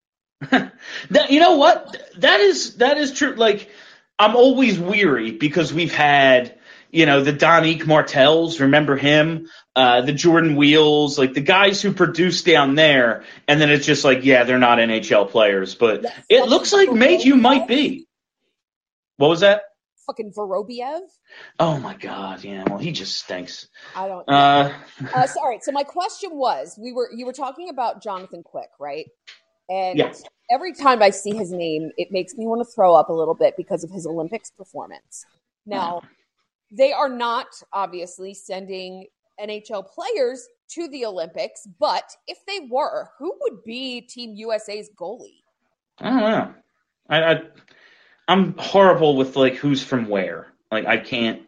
That, you know what? That is that is true. Like, I'm always weary because we've had, you know, the Donique Martells, remember him? Uh, the Jordan Wheels, like the guys who produce down there, and then it's just like, yeah, they're not N H L players, but it looks like Mayhew might be. What was that? Fucking Vorobiev. Oh my God, yeah. Well, he just stinks. I don't. Uh, uh, so, all right. So my question was, we were you were talking about Jonathan Quick, right? And Yeah. every time I see his name, it makes me want to throw up a little bit because of his Olympics performance. Now, they are not obviously sending N H L players to the Olympics, but if they were, who would be Team U S A's goalie? I don't know. I, I I'm horrible with like who's from where. Like I can't.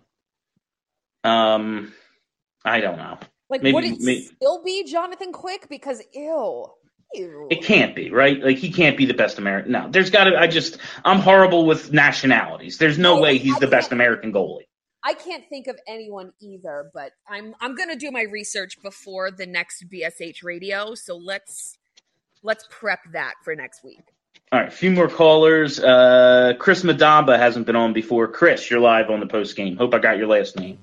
Um, I don't know. Like, Maybe- would it may- still be Jonathan Quick? Because ew, ew. It can't be, right? Like he can't be the best American. No, there's got to. I just I'm horrible with nationalities. There's no way he's the best American goalie. I can't think of anyone either, but I'm I'm gonna do my research before the next B S H radio. So let's let's prep that for next week. All right, a few more callers. Uh, Chris Madamba hasn't been on before. Chris, you're live on the post game. Hope I got your last name.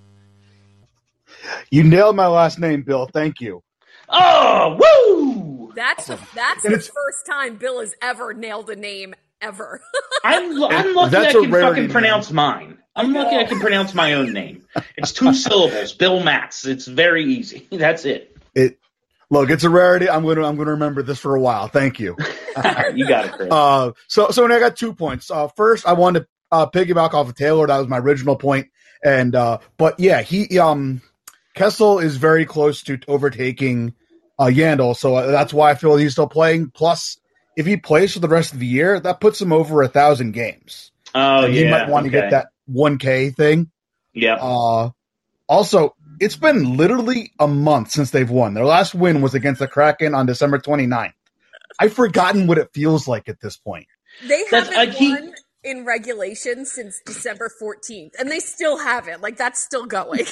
You nailed my last name, Bill. Thank you. Oh, woo! That's the, that's And the it's- first time Bill has ever nailed a name ever. I'm I'm lucky That's I a can rarity, fucking man. pronounce mine. I'm lucky I can pronounce my own name. It's two syllables. Bill Matz. It's very easy. That's it. It look, it's a rarity. I'm gonna I'm gonna remember this for a while. Thank you. All right, you got it, Chris. Uh, so so I got two points. Uh, first, I wanted to uh, piggyback off of Taylor. That was my original point. And uh, but yeah, he um Kessel is very close to overtaking uh, Yandel, so uh, that's why I feel he's still playing. Plus, if he plays for the rest of the year, that puts him over a thousand games. Oh and yeah, he might want to okay. get that one K thing. Yeah. Uh, also, it's been literally a month since they've won. Their last win was against the Kraken on December twenty-ninth. I've forgotten what it feels like at this point. They That's- haven't I keep- won in regulation since December fourteenth, and they still haven't. Like that's still going.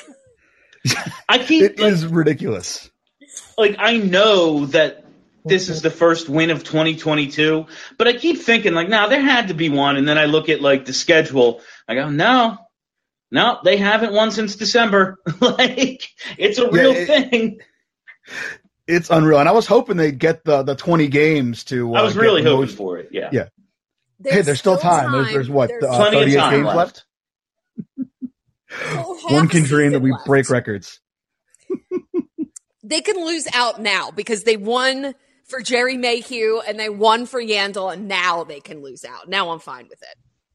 I keep It is ridiculous. like I know that this is the first win of twenty twenty-two, but I keep thinking like, nah, there had to be one, and then I look at like the schedule. I go, no, no, they haven't won since December. Like it's a real it- thing. It's unreal. And I was hoping they'd get the, the twenty games to. Uh, I was get really the hoping most- for it. Yeah. Yeah. Hey, there's still time. There's, there's what? There's uh, Plenty of thirty-eight time games left. left? Well, One half can dream that season we left. break records. They can lose out now because they won for Jerry Mayhew and they won for Yandel, and now they can lose out. Now I'm fine with it.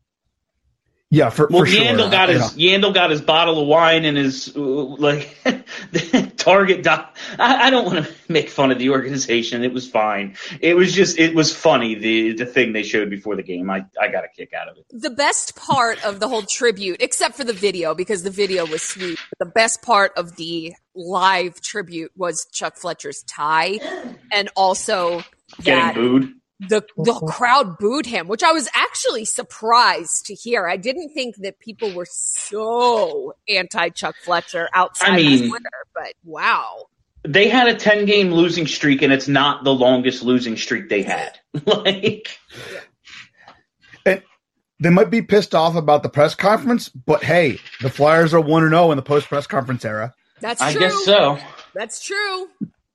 Yeah, for, well, for sure. Yandel got I- his you Yandel got his bottle of wine and his uh, like Target. Doc, I, I don't want to make fun of the organization. It was fine. It was just it was funny the the thing they showed before the game. I I got a kick out of it. The best part of the whole tribute, except for the video, because the video was sweet, but the best part of the live tribute was Chuck Fletcher's tie, and also Getting that booed. the the crowd booed him, which I was actually surprised to hear. I didn't think that people were so anti Chuck Fletcher outside I mean- of Twitter, but wow. They had a ten game losing streak, and it's not the longest losing streak they had. like, And they might be pissed off about the press conference, but hey, the Flyers are one and zero in the post press conference era. That's I true. guess so. That's true.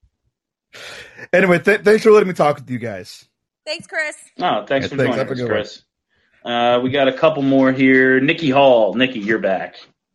Anyway, th- thanks for letting me talk with you guys. Thanks, Chris. Oh, thanks Yeah, for thanks. joining Have a us, good one. Chris. Uh, we got a couple more here. Nikki Hall. Nikki, you're back.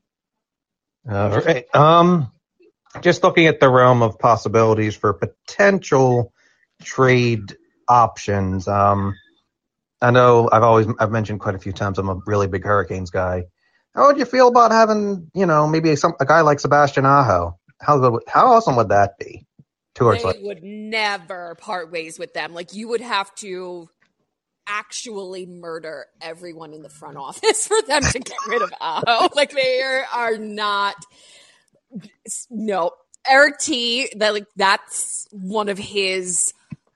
All right. Um, just looking at the realm of possibilities for potential trade options. Um, I know I've always I've mentioned quite a few times I'm a really big Hurricanes guy. How would you feel about having, you know, maybe some a guy like Sebastian Aho? How good, how awesome would that be? Towards They like, would never part ways with them. Like, you would have to actually murder everyone in the front office for them to get rid of Aho. Like, they are, are not. No, Eric T. That like that's one of his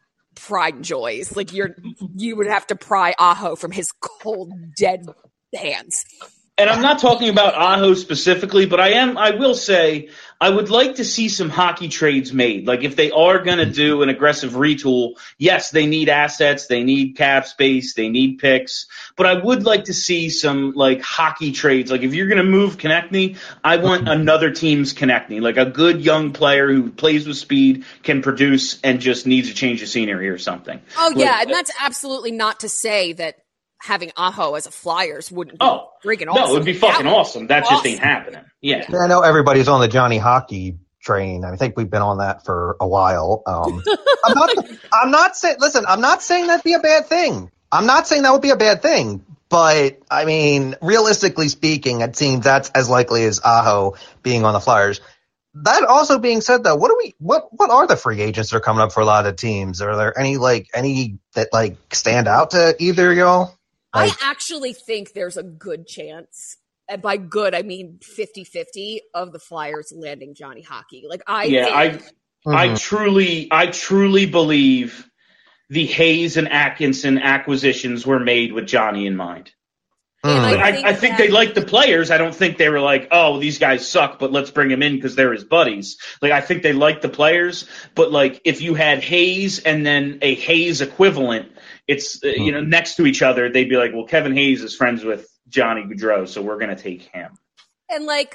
pride and joys. Like, you're you would have to pry Aho from his cold, dead hands. And I'm not talking about Aho specifically, but I am. I will say I would like to see some hockey trades made. Like, if they are going to do an aggressive retool, yes, they need assets, they need cap space, they need picks. But I would like to see some like hockey trades. Like, if you're going to move Konechny, I want another team's Konechny, like a good young player who plays with speed, can produce, and just needs a change of scenery or something. Oh Like, yeah, and that's absolutely not to say that having Aho as a Flyers wouldn't be Oh, freaking awesome. no, it would be fucking That would be awesome. That just ain't awesome. happening. Yeah. I know everybody's on the Johnny Hockey train. I think we've been on that for a while. Um, I'm not. I'm not saying. Listen, I'm not saying that'd be a bad thing. I'm not saying that would be a bad thing. But I mean, realistically speaking, it seems that's as likely as Aho being on the Flyers. That also being said, though, what do we? What what are the free agents that are coming up for a lot of teams? Are there any like any that like stand out to either of y'all? I actually think there's a good chance, and by good I mean fifty-fifty, of the Flyers landing Johnny Hockey. Like, I yeah, think I I truly I truly believe the Hayes and Atkinson acquisitions were made with Johnny in mind. And I I, think I think that- they liked the players. I don't think they were like, oh, these guys suck, but let's bring them in because they're his buddies. Like, I think they liked the players, but like if you had Hayes and then a Hayes equivalent, it's uh, you know next to each other, they'd be like, well, Kevin Hayes is friends with Johnny Gaudreau, so we're gonna take him. and like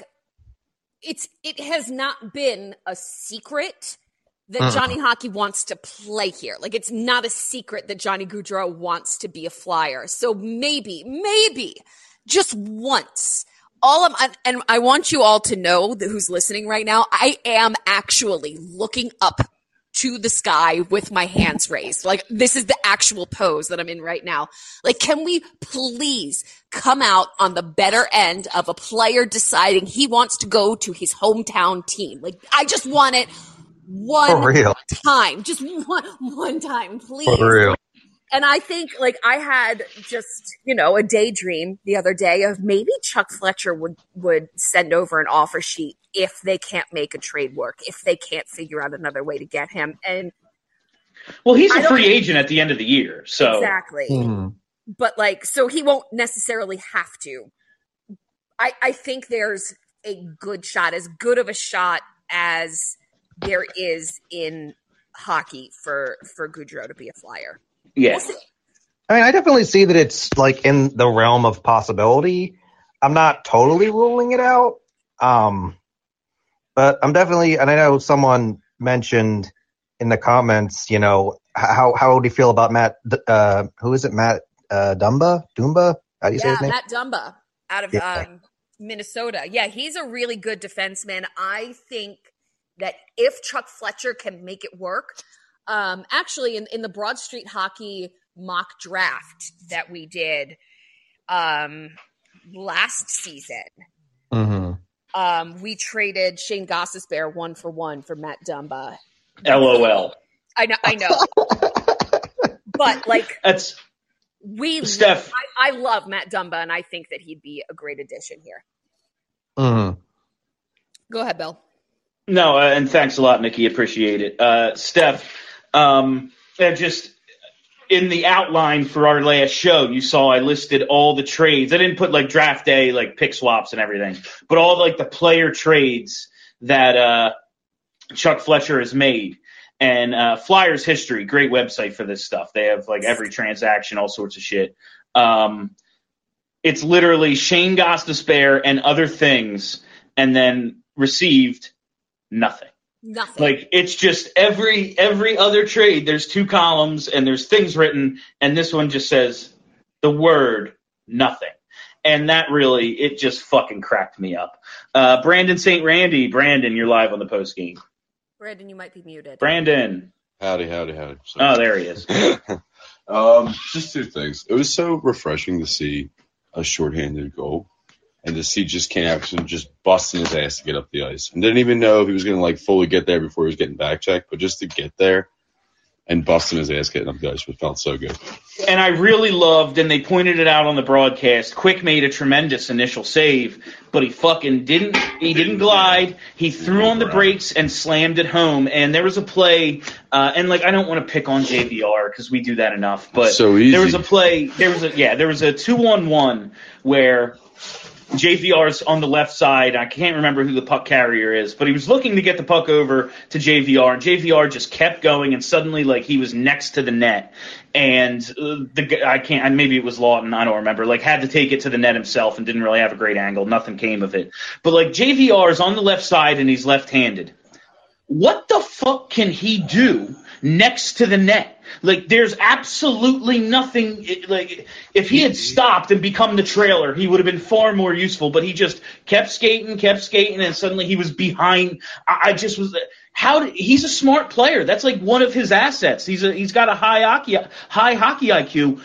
it's it has not been a secret that Mm. Johnny Hockey wants to play here. Like, it's not a secret that Johnny Gaudreau wants to be a Flyer. So maybe, maybe, just once. All of, and I want you all to know that who's listening right now, I am actually looking up to the sky with my hands raised. Like, this is the actual pose that I'm in right now. Like, can we please come out on the better end of a player deciding he wants to go to his hometown team? Like, I just want it one For real. time. Just one, one time, please. For real. And I think, like, I had just, you know, a daydream the other day of maybe Chuck Fletcher would, would send over an offer sheet if they can't make a trade work, if they can't figure out another way to get him. And Well, he's I a don't- free agent at the end of the year, so exactly. But, like, so he won't necessarily have to. I, I think there's a good shot, as good of a shot as there is in hockey for, for Gaudreau to be a Flyer. Yeah. I mean, I definitely see that it's like in the realm of possibility. I'm not totally ruling it out. Um, but I'm definitely, and I know someone mentioned in the comments, you know, how, how would you feel about Matt, uh, who is it? Matt, uh, Dumba, Dumba? How do you say Yeah, his name? Matt Dumba out of Yeah. um, Minnesota. Yeah, he's a really good defenseman. I think that if Chuck Fletcher can make it work, um, actually in, in the Broad Street Hockey mock draft that we did um, last season, Mm-hmm. um, we traded Shane Gostisbehere one for one for Matt Dumba. LOL. I know, I know. But like That's we, Steph. I, I love Matt Dumba, and I think that he'd be a great addition here. Mm-hmm. Go ahead, Bill. No, uh, and thanks a lot, Nikki. Appreciate it. Uh, Steph, um, uh, just in the outline for our last show, you saw I listed all the trades. I didn't put like draft day, like pick swaps and everything, but all like the player trades that uh, Chuck Fletcher has made. And uh, Flyers History, great website for this stuff. They have like every transaction, all sorts of shit. Um, it's literally Shane Gostisbehere and other things, and then received nothing. Nothing. Like it's just every every other trade. There's two columns and there's things written, and this one just says the word nothing. And that really, it just fucking cracked me up. Uh, Brandon Saint Randy, Brandon, you're live on the post game. Brandon, you might be muted. Brandon. Howdy, howdy, howdy. Oh, there he is. um, just two things. It was so refreshing to see a shorthanded goal and to see just Ken Atkinson just busting his ass to get up the ice. And didn't even know if he was going to like fully get there before he was getting back checked, but just to get there and busting his ass getting up the ice, it felt so good. And I really loved, and they pointed it out on the broadcast, Quick made a tremendous initial save, but he fucking didn't, he didn't glide. He threw on the brakes and slammed it home. And there was a play, uh, and like, I don't want to pick on J V R because we do that enough, but so easy. there was a play, there was a, yeah, there was a two on one where J V R's on the left side. I can't remember who the puck carrier is, but he was looking to get the puck over to J V R, and J V R just kept going, and suddenly, like, he was next to the net, and uh, the I can't. Maybe it was Lawton. I don't remember. Like, had to take it to the net himself, and didn't really have a great angle. Nothing came of it. But like, J V R is on the left side, and he's left-handed. What the fuck can he do next to the net? Like, there's absolutely nothing. Like, if he had stopped and become the trailer, he would have been far more useful. But he just kept skating, kept skating, and suddenly he was behind. I, I just was. How did, he's a smart player. That's like one of his assets. He's a he's got a high hockey high hockey I Q.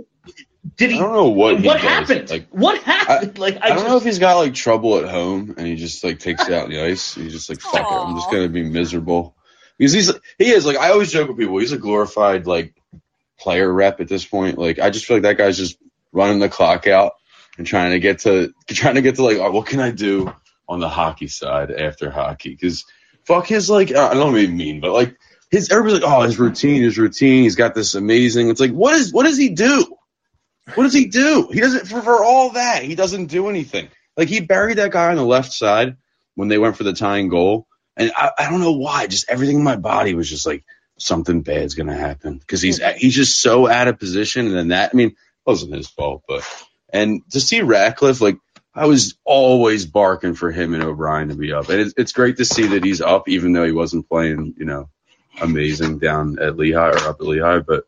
Did he? I don't know what. He What does. happened? Like, what happened? I, like I, I don't just, know if he's got like trouble at home and he just like takes it out on the ice. He's just like, fuck it, I'm just gonna be miserable. Because he's he is like I always joke with people. He's a glorified like player rep at this point. Like I just feel like that guy's just running the clock out and trying to get to trying to get to like oh, what can I do on the hockey side after hockey? Because fuck his like I don't mean mean, but like his everybody's like oh his routine, his routine. He's got this amazing. It's like what is what does he do? What does he do? He doesn't for, for all that. He doesn't do anything. Like he buried that guy on the left side when they went for the tying goal. And I, I don't know why, just everything in my body was just like something bad's gonna happen because he's he's just so out of position. And then that, I mean, it wasn't his fault, but and to see Ratcliffe, like I was always barking for him and O'Brien to be up, and it's it's great to see that he's up, even though he wasn't playing, you know, amazing down at Lehigh or up at Lehigh. But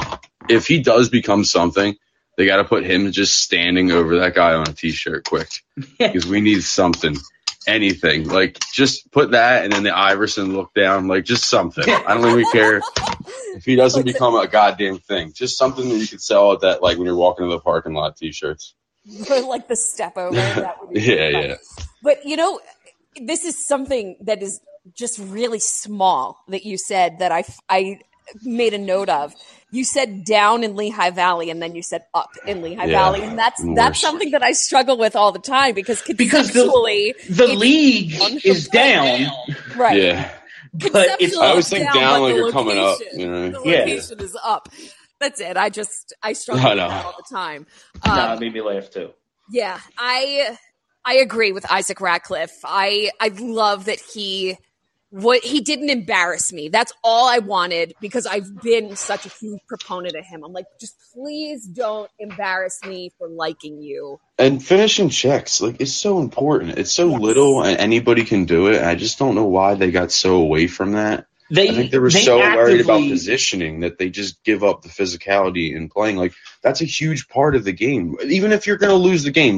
if he does become something, they got to put him just standing over that guy on a t-shirt quick because we need something. Anything like just put that and then the Iverson look down, like just something. I don't even care if he doesn't become a goddamn thing. Just something that you could sell at that, like when you're walking to the parking lot, t-shirts. Like the step over. That would be yeah, really yeah. But you know, this is something that is just really small that you said that I I made a note of. You said down in Lehigh Valley, and then you said up in Lehigh Yeah, Valley, and that's worse. that's something that I struggle with all the time because because the, conceptually, the it's league down is down, down. Right? Yeah. But it's I always think down, down but like the you're coming up. location- You know? The location is up. That's it. I just I struggle I with know. that all the time. no, Um, it made me laugh too. Yeah, I I agree with Isaac Ratcliffe. I I love that he what he didn't embarrass me. That's all I wanted because I've been such a huge proponent of him. I'm like, just please don't embarrass me for liking you. And finishing checks, like, it's so important. It's so little, and anybody can do it. And I just don't know why they got so away from that. They, I think they were they so worried about actively- positioning that they just give up the physicality in playing. Like, that's a huge part of the game. Even if you're going to lose the game, like,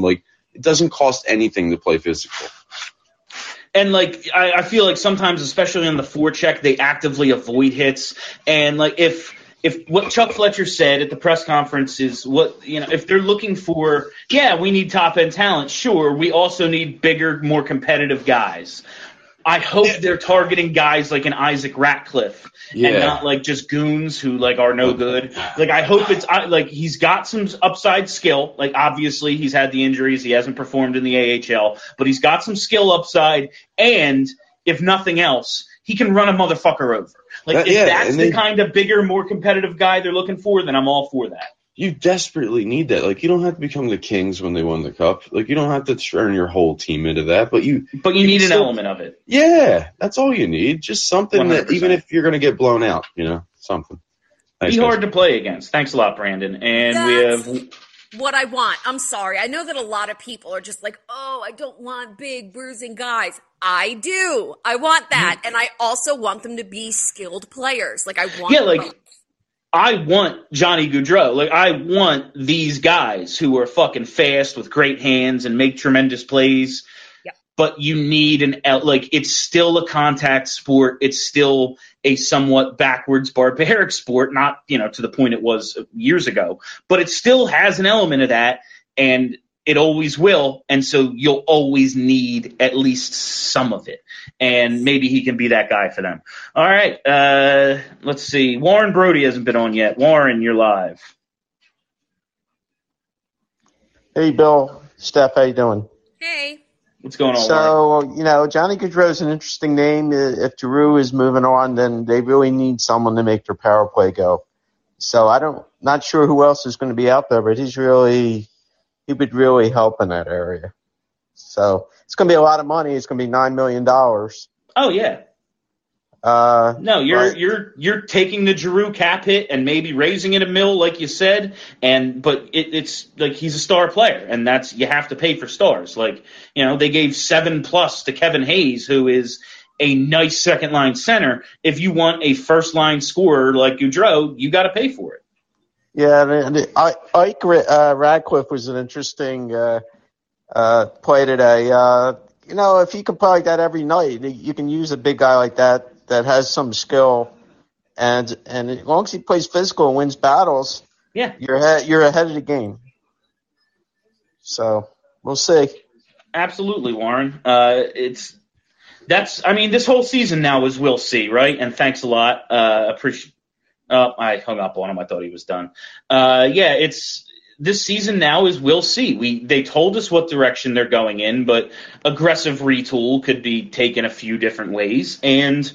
It doesn't cost anything to play physical. And, like, I, I feel like sometimes, especially on the forecheck, they actively avoid hits. And, like, if if what Chuck Fletcher said at the press conference is what, you know, if they're looking for, yeah, we need top-end talent, sure, we also need bigger, more competitive guys. I hope they're targeting guys like an Isaac Ratcliffe Yeah. and not like just goons who like are no good. Like I hope it's I- like he's got some upside skill. Like obviously he's had the injuries, he hasn't performed in the A H L, but he's got some skill upside. And if nothing else, he can run a motherfucker over. Like That- if yeah, that's and the they- kind of bigger, more competitive guy they're looking for, then I'm all for that. You desperately need that. Like, you don't have to become the Kings when they won the cup. Like, you don't have to turn your whole team into that, but you But you need an still- element of it. Yeah, that's all you need. Just something one hundred that, percent. even if you're going to get blown out, you know, something. Thanks, Be guys. hard to play against. Thanks a lot, Brandon. And we have What I want. I'm sorry. I know that a lot of people are just like, oh, I don't want big bruising guys. I do. I want that. And I also want them to be skilled players. Like I want Yeah, like both. I want Johnny Gaudreau. Like I want these guys who are fucking fast with great hands and make tremendous plays. Yeah. But you need an el- like it's still a contact sport. It's still a somewhat backwards barbaric sport, not, you know, to the point it was years ago, but it still has an element of that, and it always will. And so you'll always need at least some of it. And maybe he can be that guy for them. All right. Uh, let's see. Warren Brody hasn't been on yet. Warren, you're live. Hey, Bill, Steph, how you doing? Hey. What's going on, Warren? So, you know, Johnny Gaudreau is an interesting name. If Giroux is moving on, then they really need someone to make their power play go. So I don't, not sure who else is going to be out there, but he's really, he would really help in that area. So it's going to be a lot of money. It's going to be nine million dollars. Oh, yeah. Uh, No, you're but- you're you're taking the Giroux cap hit and maybe raising it a mill, like you said, and but it, it's like he's a star player, and that's you have to pay for stars. Like, you know, they gave seven plus to Kevin Hayes, who is a nice second line center. If you want a first line scorer like Gaudreau, you got to pay for it. Yeah, and and I- Ike uh, Radcliffe was an interesting uh, uh, play today. Uh, you know, if you can play like that every night, you can use a big guy like that that has some skill, and and as long as he plays physical and wins battles, yeah, you're ahead, you're ahead of the game. So we'll see. Absolutely, Warren. Uh, it's that's. I mean, this whole season now is we'll see, right? And thanks a lot. Uh, appreciate. Oh, I hung up on him. I thought he was done. Uh, yeah, it's this season now is we'll see. We they told us what direction they're going in, but aggressive retool could be taken a few different ways, and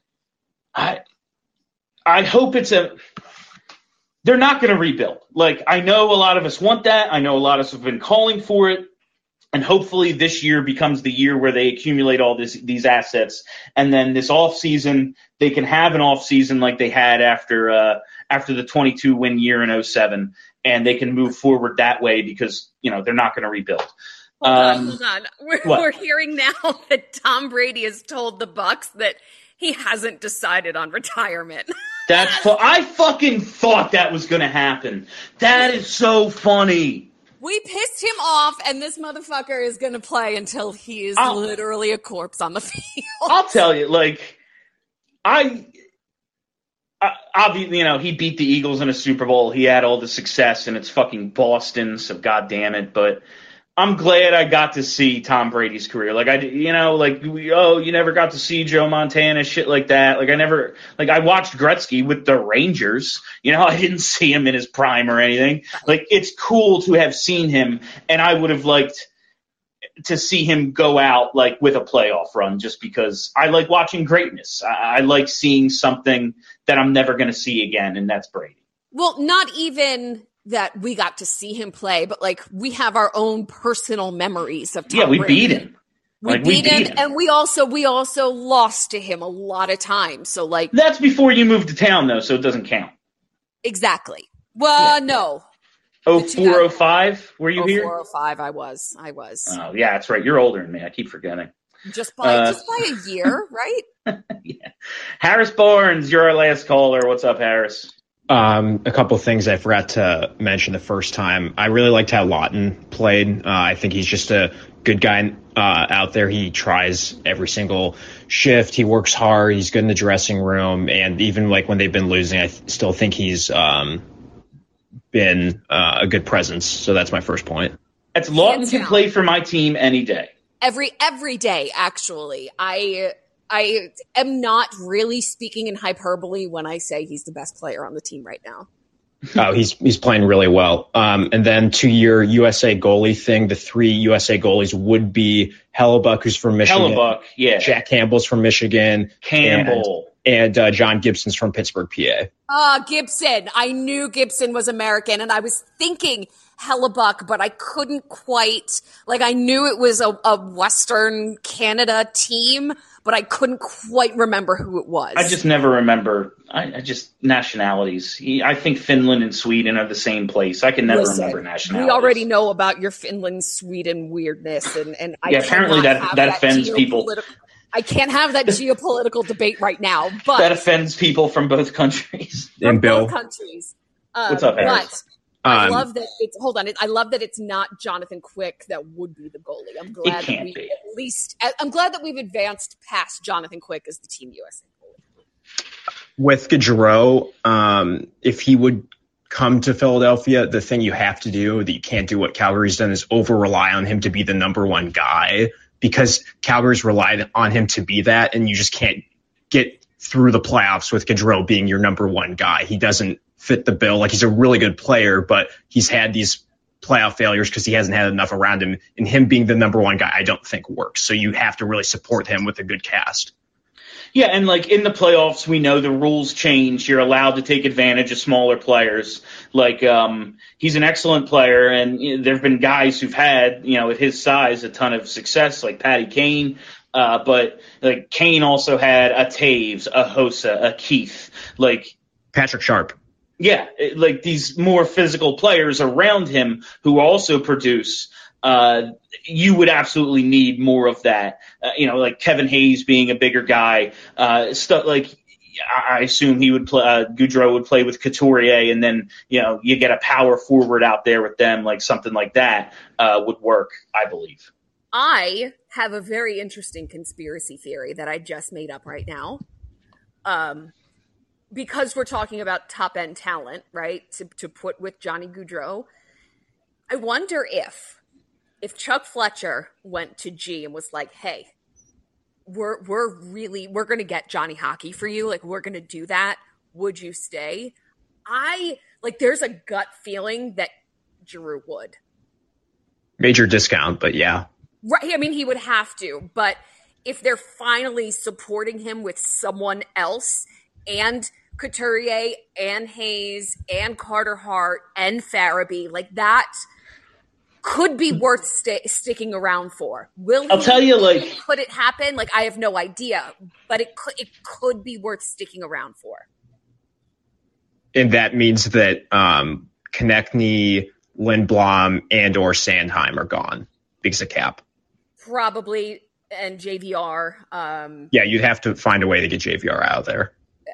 I I hope it's a. They're not going to rebuild. Like, I know a lot of us want that. I know a lot of us have been calling for it. And hopefully this year becomes the year where they accumulate all this, these assets. And then this offseason, they can have an offseason like they had after uh, after the twenty-two win year in oh seven. And they can move forward that way because, you know, they're not going to rebuild. Hold on, Um, hold on. We're, what? we're hearing now that Tom Brady has told the Bucks that he hasn't decided on retirement. That's fu- I fucking thought that was going to happen. That is so funny. We pissed him off, and this motherfucker is going to play until he is I'll- literally a corpse on the field. I'll tell you, like, I, I, obviously, you know, he beat the Eagles in a Super Bowl. He had all the success, and it's fucking Boston, so God damn it. But I'm glad I got to see Tom Brady's career. Like, I, you know, like, we, oh, you never got to see Joe Montana, shit like that. Like, I never, like, I watched Gretzky with the Rangers. You know, I didn't see him in his prime or anything. Like, it's cool to have seen him, and I would have liked to see him go out, like, with a playoff run just because I like watching greatness. I, I like seeing something that I'm never going to see again, and that's Brady. Well, not even that we got to see him play, but like we have our own personal memories of Tom Yeah, we Brady. beat him. We, Like, beat, we beat him, him. and we also we also lost to him a lot of times. So like That's before you moved to town, though, so it doesn't count. exactly. Well, no. Oh four oh five, were you oh here? four oh five, I was. I was. Oh, yeah, that's right. You're older than me. I keep forgetting. Just by Uh, just by a year, right? Harris Barnes, you're our last caller. What's up, Harris? Um, a couple of things I forgot to mention the first time. I really liked how Lawton played. Uh, I think he's just a good guy uh, out there. He tries every single shift. He works hard. He's good in the dressing room. And even like when they've been losing, I th- still think he's um, been uh, a good presence. So that's my first point. That's Lawton can play for my team any day. Every every day, actually. I I am not really speaking in hyperbole when I say he's the best player on the team right now. Oh, he's he's playing really well. Um, and then to your U S A goalie thing, the three U S A goalies would be Hellebuck, who's from Michigan. Hellebuck, yeah. Jack Campbell's from Michigan. Campbell. And, and uh, John Gibson's from Pittsburgh, P A. Ah, uh, Gibson. I knew Gibson was American, and I was thinking Hellebuck, but I couldn't quite, like, I knew it was a, a Western Canada team, but I couldn't quite remember who it was. I just never remember. I, I just nationalities. I think Finland and Sweden are the same place. I can never Listen, remember nationalities. We already know about your Finland, Sweden weirdness, and, and I yeah, apparently that that, that offends people. I can't have that geopolitical debate right now, but that offends people from both countries. From and Bill, both countries. Um, what's up, Harris? But I Um, love that it's hold on. I love that it's not Jonathan Quick that would be the goalie. I'm glad that can't we be. at least I'm glad that we've advanced past Jonathan Quick as the Team U S A goalie. with Gaudreau, um, if he would come to Philadelphia, the thing you have to do that you can't do what Calgary's done is over rely on him to be the number one guy, because Calgary's relied on him to be that, and you just can't get through the playoffs with Gaudreau being your number one guy. He doesn't fit the bill. Like, he's a really good player, but he's had these playoff failures because he hasn't had enough around him, and him being the number one guy I don't think works. So you have to really support him with a good cast. Yeah, and like in the playoffs, we know the rules change. You're allowed to take advantage of smaller players. Like, um, he's an excellent player, and you know, there have been guys who've had, you know, at his size, a ton of success, like Patty Kane. Uh, but like Kane also had a Taves, a Hossa, a Keith, like Patrick Sharp. Yeah, it- like these more physical players around him who also produce. Uh, you would absolutely need more of that. Uh, you know, like Kevin Hayes being a bigger guy. Uh, stuff like I I assume he would play. Uh, Gaudreau would play with Couturier, and then you know you get a power forward out there with them, like something like that uh, would work, I believe. I have a very interesting conspiracy theory that I just made up right now. Um, because we're talking about top end talent, right? To to put with Johnny Gaudreau, I wonder if if Chuck Fletcher went to G and was like, "Hey, we're we're really we're going to get Johnny Hockey for you. Like, we're going to do that. Would you stay?" I like. There's a gut feeling that Giroux would. Major discount, but yeah. Right. I mean, he would have to, but if they're finally supporting him with someone else, and Couturier and Hayes and Carter Hart and Farabee, like that could be worth sta sticking around for. Will I'll he, tell you, like- could it happen? Like, I have no idea, but it could, it could be worth sticking around for. And that means that um, Konechny, Lindblom, and or Sandheim are gone because of cap. Probably, and J V R. Um, Yeah, you'd have to find a way to get J V R out of there.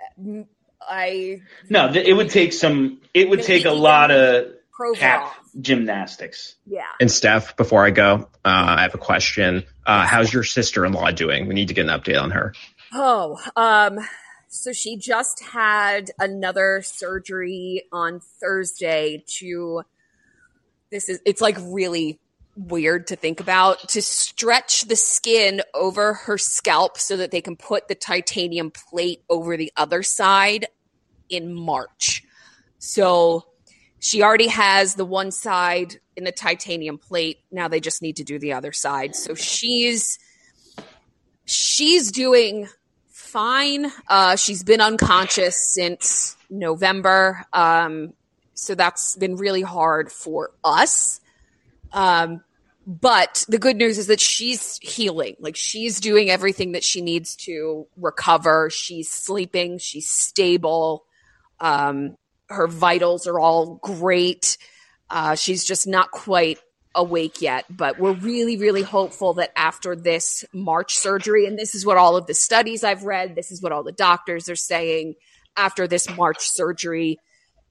I No, th- it would take some. It would take a lot of cap gymnastics. Yeah. And Steph, before I go, uh, I have a question. Uh, how's your sister-in-law doing? We need to get an update on her. Oh, um, so she just had another surgery on Thursday to, this is, it's like really weird to think about, to stretch the skin over her scalp so that they can put the titanium plate over the other side in March. So she already has the one side in the titanium plate. Now they just need to do the other side. So she's, she's doing fine. Uh, she's been unconscious since November. Um, so that's been really hard for us. Um, but the good news is that she's healing. Like, she's doing everything that she needs to recover. She's sleeping. She's stable. Um, her vitals are all great. Uh, she's just not quite awake yet, but we're really, really hopeful that after this March surgery, and this is what all of the studies I've read, this is what all the doctors are saying, after this March surgery,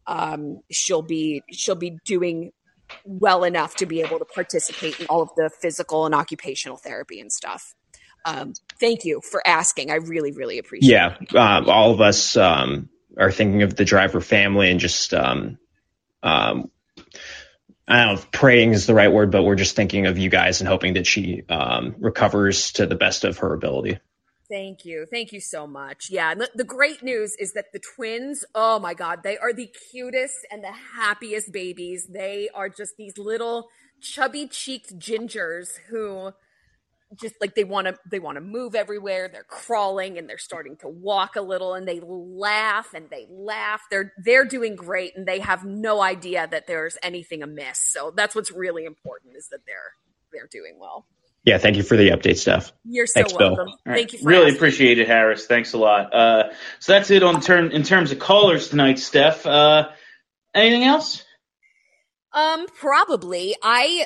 um, she'll be she'll be doing well enough to be able to participate in all of the physical and occupational therapy and stuff. Um, thank you for asking. I really, really appreciate Yeah, it. um, all of us um, are thinking of the Driver family and just, um, um, I don't know if praying is the right word, but we're just thinking of you guys and hoping that she um, recovers to the best of her ability. Thank you. Thank you so much. Yeah. And the, the great news is that the twins, oh my God, they are the cutest and the happiest babies. They are just these little chubby cheeked gingers who just like they want to they want to move everywhere. They're crawling and they're starting to walk a little and they laugh and they laugh. They're they're doing great and they have no idea that there's anything amiss. So that's what's really important is that they're they're doing well. Yeah, thank you for the update, Steph. You're so Thanks, Bill. welcome. All Thank right. you for Really asking. appreciate it, Harris. Thanks a lot. Uh, so that's it on turn in terms of callers tonight, Steph. Uh, anything else? Um, probably. I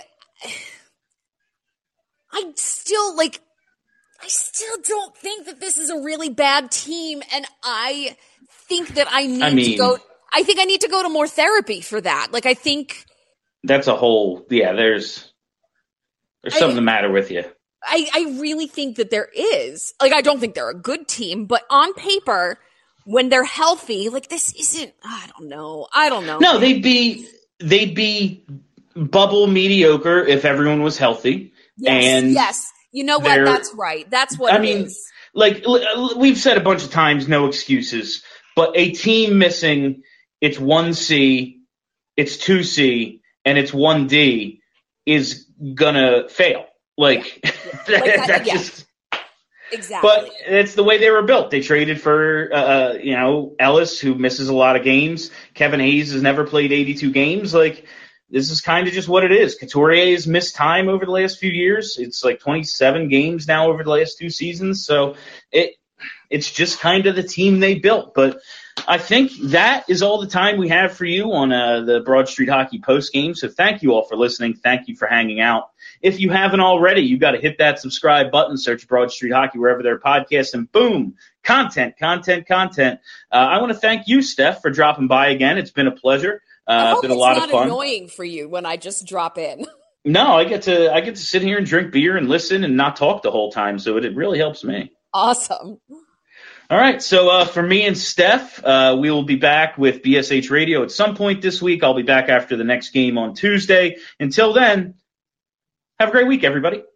I still like I still don't think that this is a really bad team, and I think that I need I mean, to go I think I need to go to more therapy for that. Like I think That's a whole, yeah, there's there's something I- the matter with you. I, I really think that there is. Like, I don't think they're a good team, but on paper, when they're healthy, like, this isn't, I don't know. I don't know. No, they'd be they'd be bubble mediocre if everyone was healthy. Yes, and yes. You know what? they're- That's right. That's what I it mean, is. like l- we've said a bunch of times, no excuses. But a team missing its one C, its two C, and its one D is gonna fail. Like, that, Like that- that's yeah. just. Exactly. But it's the way they were built. They traded for, uh, you know, Ellis, who misses a lot of games. Kevin Hayes has never played eighty-two games. Like, this is kind of just what it is. Couturier has missed time over the last few years. It's like twenty-seven games now over the last two seasons. So it it's just kind of the team they built. But I think that is all the time we have for you on uh, the Broad Street Hockey post game. So thank you all for listening. Thank you for hanging out. If you haven't already, you've got to hit that subscribe button, search Broad Street Hockey wherever there are podcasts, and boom, content, content, content. Uh, I want to thank you, Steph, for dropping by again. It's been a pleasure. I Uh, hope been a it's lot not of fun. annoying for you when I just drop in. No, I get to I get to sit here and drink beer and listen and not talk the whole time, so it, it really helps me. Awesome. All right, so uh, for me and Steph, uh, we will be back with B S H Radio at some point this week. I'll be back after the next game on Tuesday. Until then, have a great week, everybody.